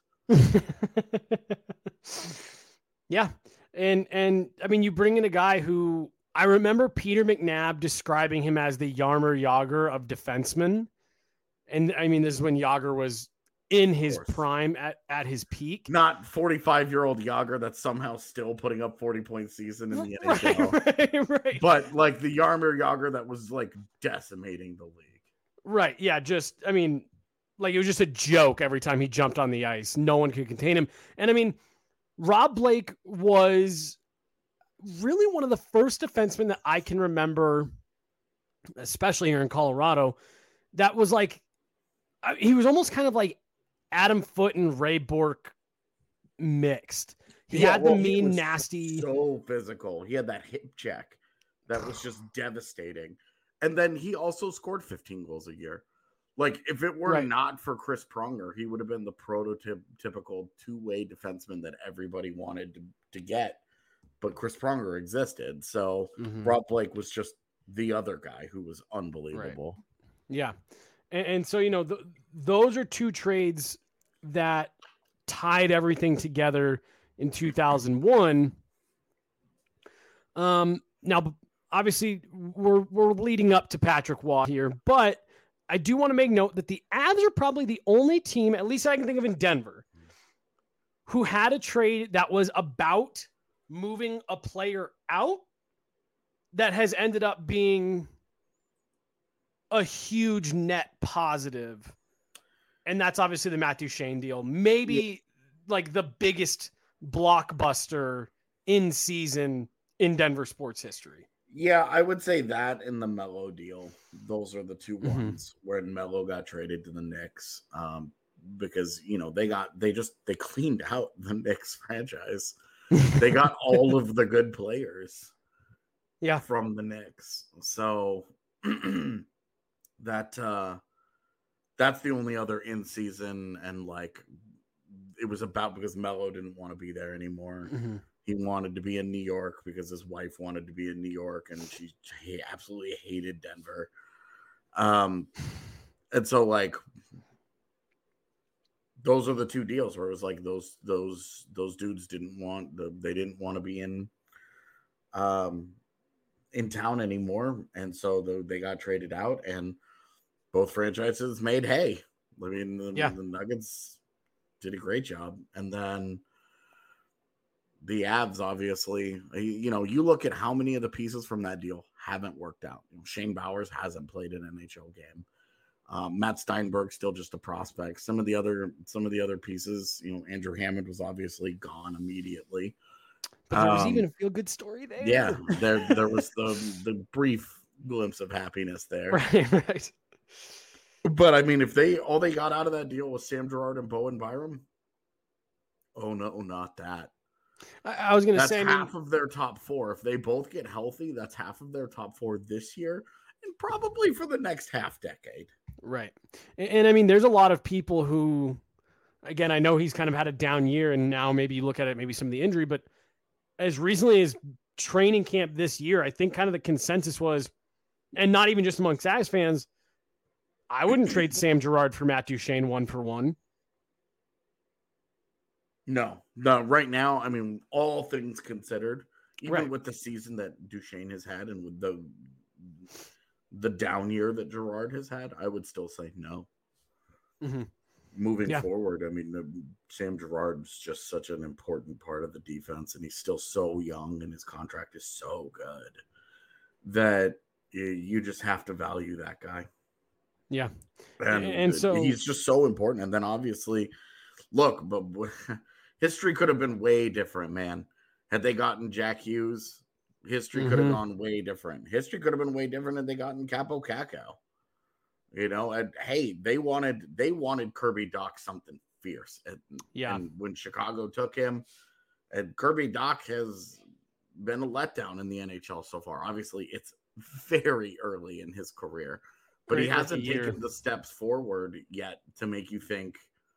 Yeah. And and I mean you bring in a guy who I remember Peter McNabb describing him as the Jaromir Jagr of defensemen. And I mean this is when Jagr was in his course. prime at, at his peak. Not forty-five year old Yager that's somehow still putting up forty point season in the N H L. Right, right, right. But like the Jaromir Jagr that was like decimating the league. Right. Yeah. Just, I mean, like it was just a joke every time he jumped on the ice. No one could contain him. And I mean, Rob Blake was really one of the first defensemen that I can remember, especially here in Colorado, that was like, I- he was almost kind of like Adam Foote and Ray Bork mixed. He Yeah, had well, the he mean, was nasty. So physical. He had that hip check that was just devastating. And then he also scored fifteen goals a year. Like, if it were Right. not for Chris Pronger, he would have been the prototypical two-way defenseman that everybody wanted to, to get. But Chris Pronger existed. So Mhm. Rob Blake was just the other guy who was unbelievable. Yeah. And, and so, you know, th- those are two trades that tied everything together in two thousand one. Um, now, obviously, we're, we're leading up to Patrick Waugh here, but I do want to make note that the Avs are probably the only team, at least I can think of in Denver, who had a trade that was about moving a player out that has ended up being a huge net positive. And that's obviously the Matt Duchene deal. Maybe Yeah. like the biggest blockbuster in season in Denver sports history. Yeah, I would say that and the Melo deal. Those are the two Mhm. ones where Melo got traded to the Knicks. Um, because you know they got they just they cleaned out the Knicks franchise. They got all of the good players Yeah. from the Knicks. So that uh that's the only other in season, and like it was about because Melo didn't want to be there anymore. Mhm. He wanted to be in New York because his wife wanted to be in New York, and she he absolutely hated Denver. Um, and so like those are the two deals where it was like those those those dudes didn't want the they didn't want to be in um in town anymore, and so the, they got traded out, and both franchises made hay. I mean, the, Yeah. the Nuggets did a great job, and then the Avs, obviously, you know, you look at how many of the pieces from that deal haven't worked out. You know, Shane Bowers hasn't played an N H L game. Um, Matt Steinberg still just a prospect. Some of the other, some of the other pieces, you know, Andrew Hammond was obviously gone immediately. But there was Um, even a feel good story there. Yeah, there, there was the the brief glimpse of happiness there. Right, right. But I mean, if they all they got out of that deal was Sam Girard and Bowen Byram, oh no, not that. I, I was going to That's say, I mean, half of their top four. If they both get healthy, that's half of their top four this year, and probably for the next half decade. right. And, and I mean, there's a lot of people who, again, I know he's kind of had a down year, and now maybe you look at it, maybe some of the injury, but as recently as training camp this year, I think kind of the consensus was, and not even just amongst Avs fans, I wouldn't trade Sam Girard for Matt Duchene one for one. No, no. Right now, I mean, all things considered, even Right. with the season that Duchesne has had, and with the the down year that Girard has had, I would still say no. Mm-hmm. Moving Yeah. forward, I mean, uh, Sam Girard's just such an important part of the defense, and he's still so young, and his contract is so good that you, you just have to value that guy. Yeah. And, and so he's just so important. And then obviously, look, but history could have been way different, man. Had they gotten Jack Hughes, history mm-hmm. could have gone way different. History could have been way different had they gotten Capo Cacao. You know, and hey, they wanted they wanted Kirby Dach something fierce. And, yeah. And when Chicago took him, and Kirby Dach has been a letdown in the N H L so far. Obviously, it's very early in his career, but Great he hasn't taken the steps forward yet to make you think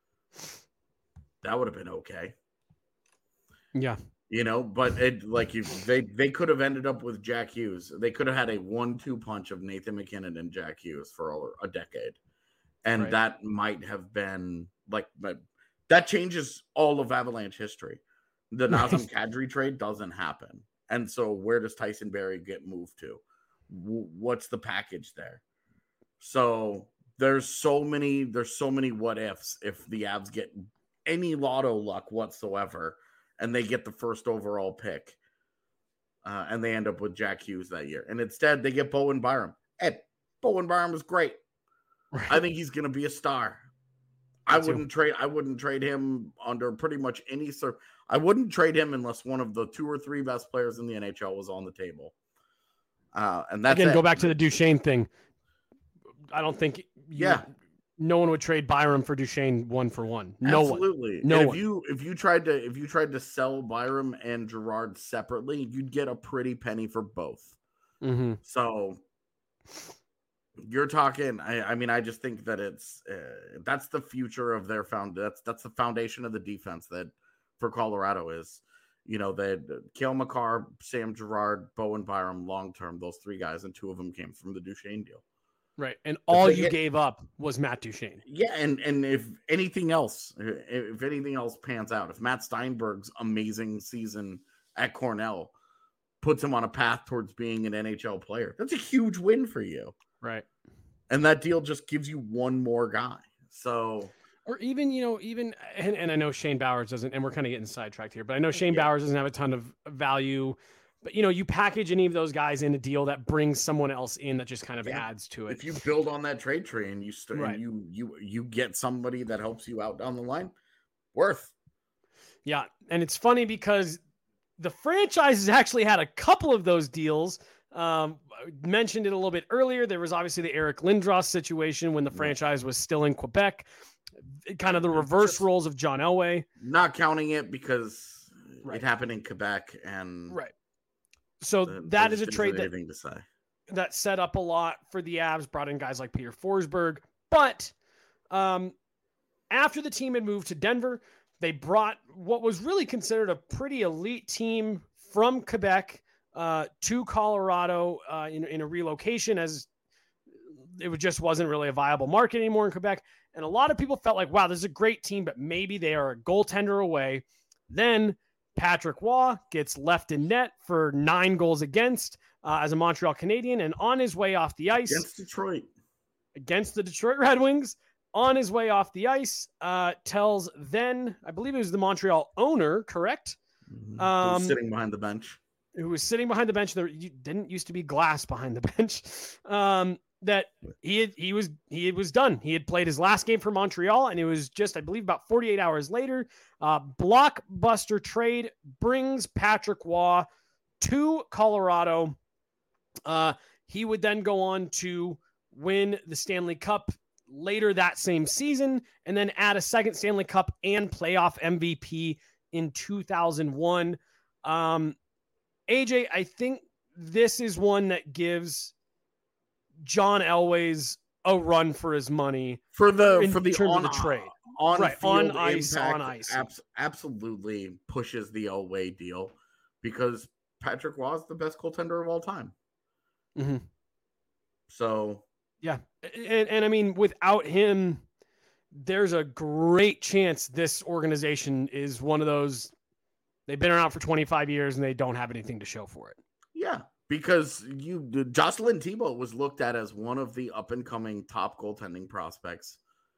that would have been okay. Yeah. You know, but it like you they they could have ended up with Jack Hughes. They could have had a one two punch of Nathan McKinnon and Jack Hughes for over a decade. And right. that might have been like but that changes all of Avalanche history. The Nazem Kadri trade doesn't happen. And so where does Tyson Barrie get moved to? W- what's the package there? So there's so many there's so many what ifs if the Avs get any lotto luck whatsoever. And they get the first overall pick. Uh, and they end up with Jack Hughes that year. And instead, they get Bowen Byram. Ed, Bowen Byram was great. Right. I think he's going to be a star. Me I too. wouldn't trade I wouldn't trade him under pretty much any sort. I wouldn't trade him unless one of the two or three best players in the N H L was on the table. Uh, and that's Again, it. Go back to the Duchesne thing. I don't think you, yeah. no one would trade Byram for Duchesne one for one. No Absolutely. one. No and one. If you if you tried to if you tried to sell Byram and Girard separately, you'd get a pretty penny for both. Mm-hmm. So you're talking. I, I mean, I just think that it's uh, that's the future of their found. That's that's the foundation of the defense that for Colorado is. You know, they had Cale Makar, Sam Girard, Bowen Byram, long term. Those three guys, and two of them came from the Duchesne deal. Right, and all you get, gave up was Matt Duchesne. Yeah, and and if anything else, if anything else pans out, if Matt Steinberg's amazing season at Cornell puts him on a path towards being an N H L player, that's a huge win for you. Right, and that deal just gives you one more guy. So, or even you know, even and, and I know Shane Bowers doesn't, and we're kind of getting sidetracked here, but I know Shane yeah. Bowers doesn't have a ton of value. But, you know, you package any of those guys in a deal that brings someone else in that just kind of yeah. adds to it. If you build on that trade tree and you st- right. and you you you get somebody that helps you out down the line, worth. Yeah, and it's funny because the franchise has actually had a couple of those deals. Um, I mentioned it a little bit earlier. There was obviously the Eric Lindros situation when the franchise was still in Quebec. Kind of the reverse just roles of John Elway. Not counting it because right. it happened in Quebec and right. So that is a trade that, to say. that set up a lot for the Avs, brought in guys like Peter Forsberg. But um, after the team had moved to Denver, they brought what was really considered a pretty elite team from Quebec uh, to Colorado uh, in, in a relocation, as it just wasn't really a viable market anymore in Quebec. And a lot of people felt like, wow, this is a great team, but maybe they are a goaltender away. Then Patrick Waugh gets left in net for nine goals against uh, as a Montreal Canadian, and on his way off the ice against Detroit, against the Detroit Red Wings, on his way off the ice, uh, tells then I believe it was the Montreal owner, correct? Mm-hmm. Um, sitting behind the bench, who was sitting behind the bench. There didn't used to be glass behind the bench. Um, that he had, he was he was done. He had played his last game for Montreal, and it was just, I believe, about forty-eight hours later. Uh, blockbuster trade brings Patrick Waugh to Colorado. Uh, he would then go on to win the Stanley Cup later that same season, and then add a second Stanley Cup and playoff M V P in two thousand one. Um, A J, I think this is one that gives John Elway's a run for his money for the in for the terms on, of the trade. On, right, on ice, impact, on ice. Abs- absolutely pushes the Elway deal because Patrick Waugh is the best goaltender of all time. Mm-hmm. So, yeah. And, and I mean, without him, there's a great chance this organization is one of those, they've been around for twenty-five years and they don't have anything to show for it. Yeah. Because you, Jocelyn Thibault was looked at as one of the up and coming top goaltending prospects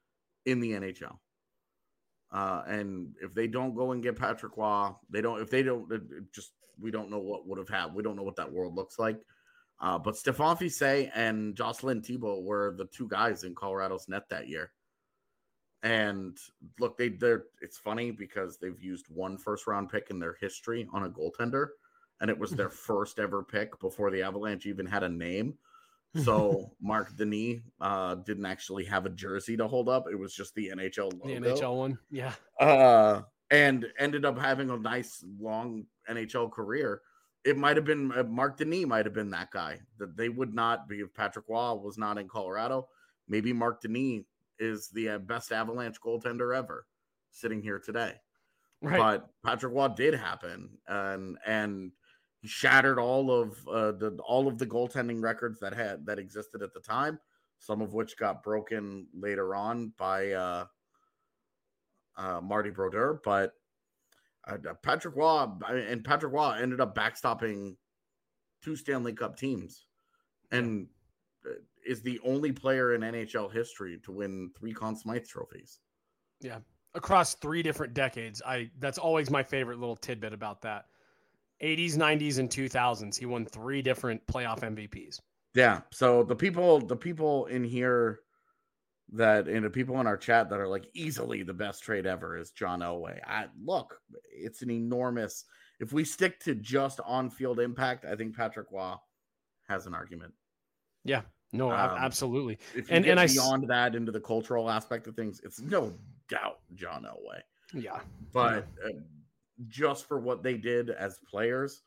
in the N H L. Uh, and if they don't go and get Patrick Roy, they don't, if they don't, it, it just, we don't know what would have happened. We don't know what that world looks like. Uh, but Stephane Fiset and Jocelyn Thibault were the two guys in Colorado's net that year. And look, they, they're, it's funny because they've used one first round pick in their history on a goaltender. And it was their first ever pick before the Avalanche even had a name. So Marc Denis uh, didn't actually have a jersey to hold up. It was just the N H L logo. The N H L one, yeah. Uh, and ended up having a nice, long N H L career. It might have been, uh, Marc Denis might have been that guy. That they would not be, if Patrick Roy was not in Colorado, maybe Marc Denis is the uh, best Avalanche goaltender ever sitting here today. Right. But Patrick Roy did happen. And, and, he shattered all of uh, the all of the goaltending records that had that existed at the time, some of which got broken later on by uh, uh, Marty Brodeur. But uh, Patrick Roy and Patrick Roy ended up backstopping two Stanley Cup teams, and is the only player in N H L history to win three Conn Smythe trophies. Yeah, across three different decades. I that's always my favorite little tidbit about that. eighties, nineties, and two thousands. He won three different playoff M V Ps. Yeah. So the people, the people in here that, and the people in our chat that are like easily the best trade ever is John Elway. I look, it's an enormous, if we stick to just on-field impact, I think Patrick Roy has an argument. Yeah, no, um, absolutely. If you and, get and beyond I, that into the cultural aspect of things, it's no doubt John Elway. Yeah. But yeah. Uh, just for what they did as players.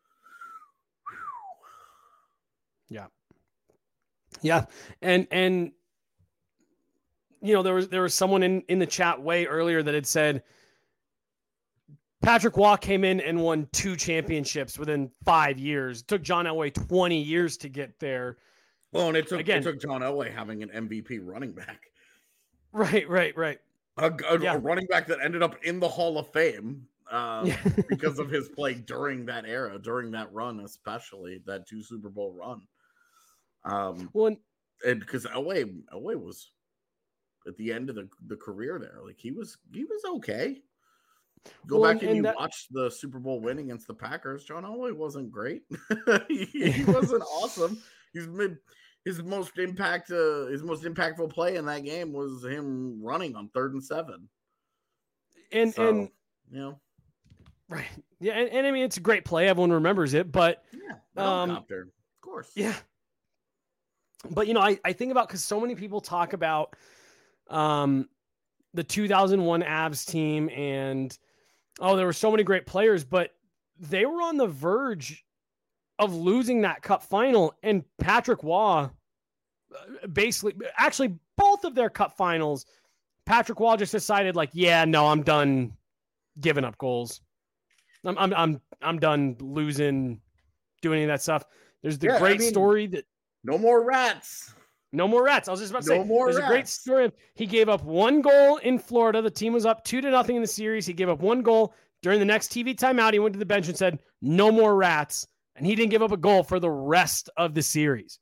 Yeah. Yeah. And, and, you know, there was, there was someone in, in the chat way earlier that had said Patrick Roy came in and won two championships within five years. It took John Elway twenty years to get there. Well, and it took, Again, it took John Elway having an M V P running back. Right, right, right. A, a, yeah. a running back that ended up in the Hall of Fame. Um, because of his play during that era, during that run, especially that two Super Bowl run. Um, well, and because Elway, Elway was at the end of the, the career there, like he was, he was okay. Go well, back and, and you that... watch the Super Bowl win against the Packers. John Elway wasn't great. he, he wasn't awesome. He's mid. His most impact, uh, his most impactful play in that game was him running on third and seven. And so, and you know. Right. Yeah. And, and I mean, it's a great play. Everyone remembers it, but yeah, um, of course. Yeah. But, you know, I, I think about, cause so many people talk about um, the two thousand one Avs team and, oh, there were so many great players, but they were on the verge of losing that cup final. And Patrick Roy basically, actually both of their cup finals, Patrick Roy just decided like, yeah, no, I'm done giving up goals. I'm I'm I'm I'm done losing, doing any of that stuff. There's the yeah, great I mean, story that no more rats. No more rats. I was just about to no say more there's rats. a great story of he gave up one goal in Florida. The team was up two to nothing in the series. He gave up one goal during the next T V timeout. He went to the bench and said, "No more rats," and he didn't give up a goal for the rest of the series.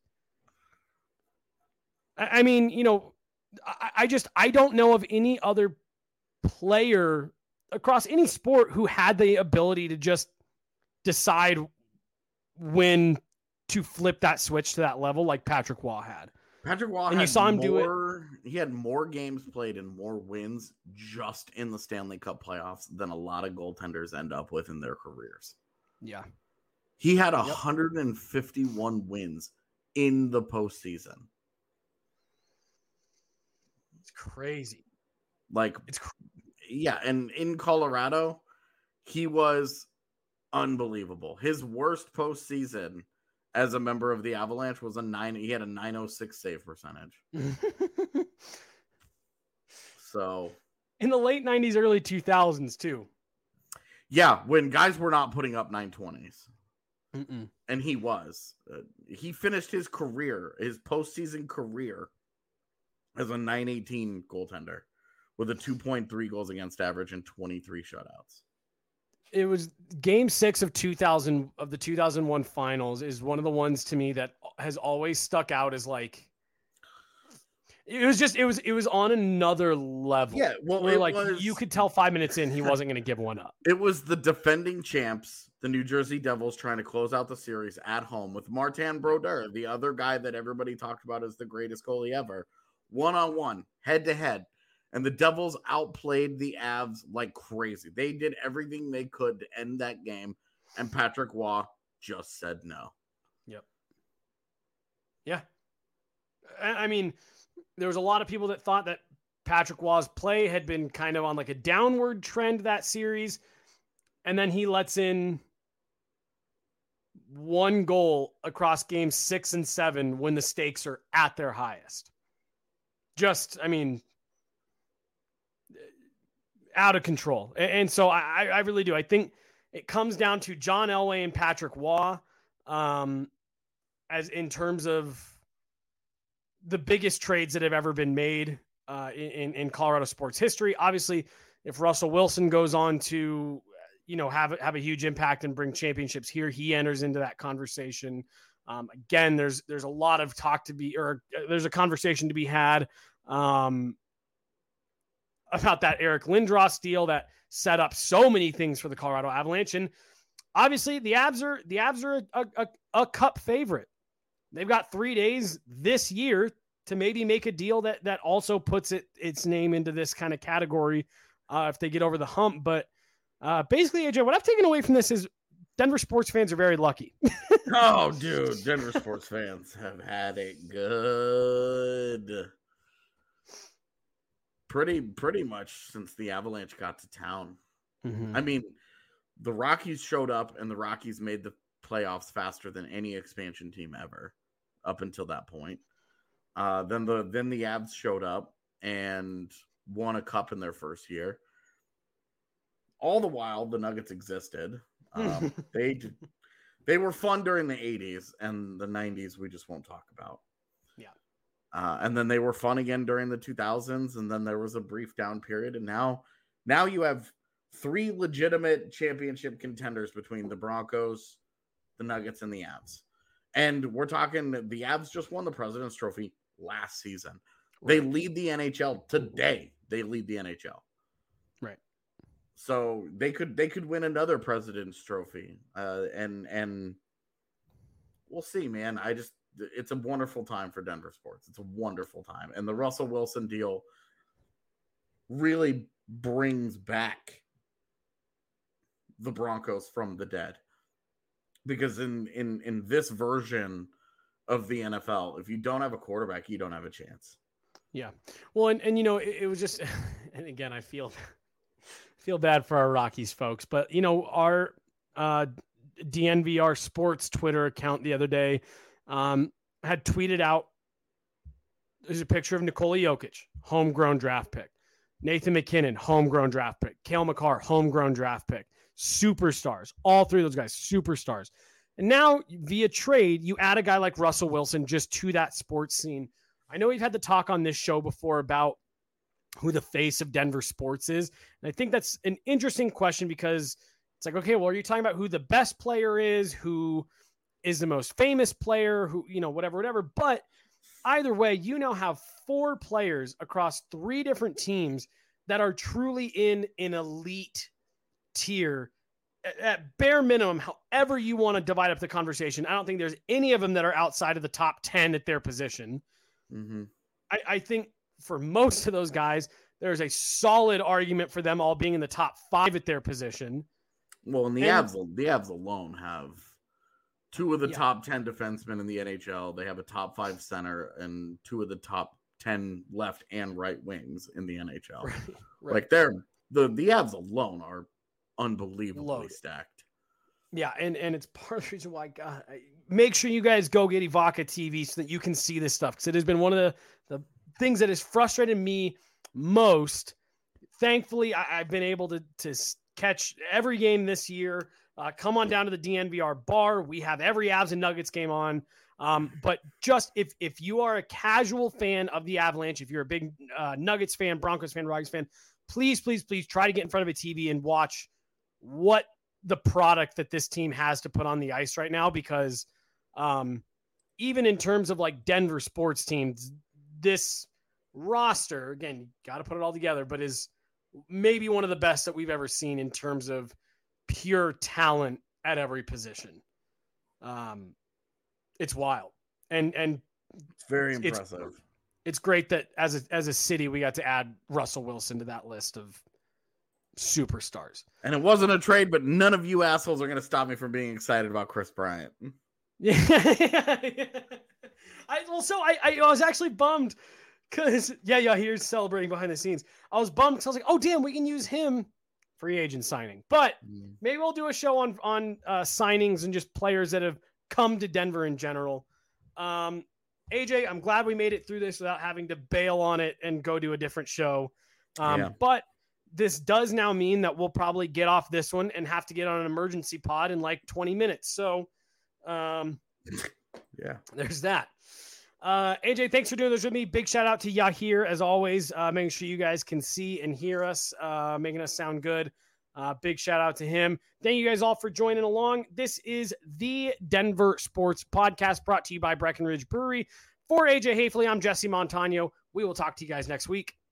I, I mean, you know, I, I just I don't know of any other player across any sport who had the ability to just decide when to flip that switch to that level like Patrick Roy had. Patrick Roy and had you saw him more, do it. He had more games played and more wins just in the Stanley Cup playoffs than a lot of goaltenders end up with in their careers. Yeah. He had one yep. hundred fifty-one wins in the postseason. It's crazy. Like, it's cr- yeah, and in Colorado, he was unbelievable. His worst postseason as a member of the Avalanche was a nine. He had a nine oh six save percentage. So in the late nineties, early two thousands too. Yeah, when guys were not putting up nine twenties. Mm-mm. And he was. Uh, he finished his career, his postseason career, as a nine eighteen goaltender with a two point three goals against average and twenty-three shutouts. It was game six of two thousand of the two thousand one finals is one of the ones to me that has always stuck out as like, It was just, it was, it was on another level. Yeah, well, where it like was- you could tell five minutes in he wasn't going to give one up. It was the defending champs, the New Jersey Devils, trying to close out the series at home with Martin Brodeur, the other guy that everybody talked about as the greatest goalie ever, one-on-one, head-to-head. And the Devils outplayed the Avs like crazy. They did everything they could to end that game, and Patrick Waugh just said no. Yep. Yeah. I I mean, there was a lot of people that thought that Patrick Waugh's play had been kind of on like a downward trend that series. And then he lets in one goal across games six and seven when the stakes are at their highest. Just, I mean, out of control. And, and so I, I really do. I think it comes down to John Elway and Patrick Waugh um, as in terms of the biggest trades that have ever been made uh, in, in Colorado sports history. Obviously, if Russell Wilson goes on to, you know, have, have a huge impact and bring championships here, he enters into that conversation. Um, again, there's, there's a lot of talk to be, or there's a conversation to be had um, about that Eric Lindros deal that set up so many things for the Colorado Avalanche. And obviously the Avs are, the Avs are a, a, a cup favorite. They've got three days this year to maybe make a deal that, that also puts it, its name into this kind of category uh, if they get over the hump. But uh, basically, A J, what I've taken away from this is Denver sports fans are very lucky. Oh, dude, Denver sports fans have had it good. Pretty, pretty much since the Avalanche got to town. Mm-hmm. I mean, the Rockies showed up, and the Rockies made the playoffs faster than any expansion team ever up until that point. Uh, then the then the Avs showed up and won a cup in their first year. All the while, the Nuggets existed. Um, they they were fun during the eighties, and the nineties we just won't talk about. Yeah. Uh, and then they were fun again during the two thousands, and then there was a brief down period, and now now you have three legitimate championship contenders between the Broncos, the Nuggets, and the Avs. And we're talking the Avs just won the President's Trophy last season. They lead the N H L today. They lead the N H L. Right. So they could they could win another President's Trophy. Uh, and and we'll see, man. I just it's a wonderful time for Denver sports. It's a wonderful time. And the Russell Wilson deal really brings back the Broncos from the dead. Because in, in, in this version of the N F L, if you don't have a quarterback, you don't have a chance. Yeah. Well, and, and you know, it, it was just, and again, I feel, feel bad for our Rockies folks, but you know, our uh, D N V R Sports Twitter account the other day um, had tweeted out, there's a picture of Nikola Jokic, homegrown draft pick. Nathan McKinnon, homegrown draft pick. Cale Makar, homegrown draft pick. Superstars. All three of those guys, superstars. And now via trade, you add a guy like Russell Wilson just to that sports scene. I know we've had the talk on this show before about who the face of Denver sports is. And I think that's an interesting question because it's like, okay, well, are you talking about who the best player is, who is the most famous player, who, you know, whatever, whatever. But either way, you now have four players across three different teams that are truly in an elite tier at bare minimum. However you want to divide up the conversation, I don't think there's any of them that are outside of the top ten at their position. Mm-hmm. I, I think for most of those guys, there's a solid argument for them all being in the top five at their position. Well, and the And- Avs, the Avs alone have two of the Yeah. top ten defensemen in the N H L. They have a top five center and two of the top ten left and right wings in the N H L. Right, right. Like they're the the Avs alone are unbelievably Loaded. stacked. Yeah, and, and it's part of the reason why, God, I, make sure you guys go get Evoca T V so that you can see this stuff, because it has been one of the, the things that has frustrated me most. Thankfully, I, I've been able to, to catch every game this year. Uh, come on down to the D N V R bar. We have every Avs and Nuggets game on. Um, but just if if you are a casual fan of the Avalanche, if you're a big uh, Nuggets fan, Broncos fan, Rockies fan, please, please, please try to get in front of a T V and watch what the product that this team has to put on the ice right now, because um, even in terms of like Denver sports teams, this roster, again, you got to put it all together, but is maybe one of the best that we've ever seen in terms of pure talent at every position. Um, it's wild. And, and It's very it's, impressive. It's great that as a, as a city, we got to add Russell Wilson to that list of superstars. And it wasn't a trade, but none of you assholes are going to stop me from being excited about Chris Bryant. Yeah. I, well, so I, I, I was actually bummed because, yeah, yeah, here's celebrating behind the scenes. I was bummed because I was like, oh, damn, we can use him free agent signing. But Mm. maybe we'll do a show on, on uh, signings and just players that have come to Denver in general. Um, A J, I'm glad we made it through this without having to bail on it and go to a different show. Um, Yeah. But this does now mean that we'll probably get off this one and have to get on an emergency pod in like twenty minutes. So um, Yeah. there's that. Uh, A J, thanks for doing this with me. Big shout out to Yahir, as always, uh, making sure you guys can see and hear us, uh, making us sound good. Uh, big shout out to him. Thank you guys all for joining along. This is the Denver Sports Podcast brought to you by Breckenridge Brewery. For A J Hafley, I'm Jesse Montano. We will talk to you guys next week.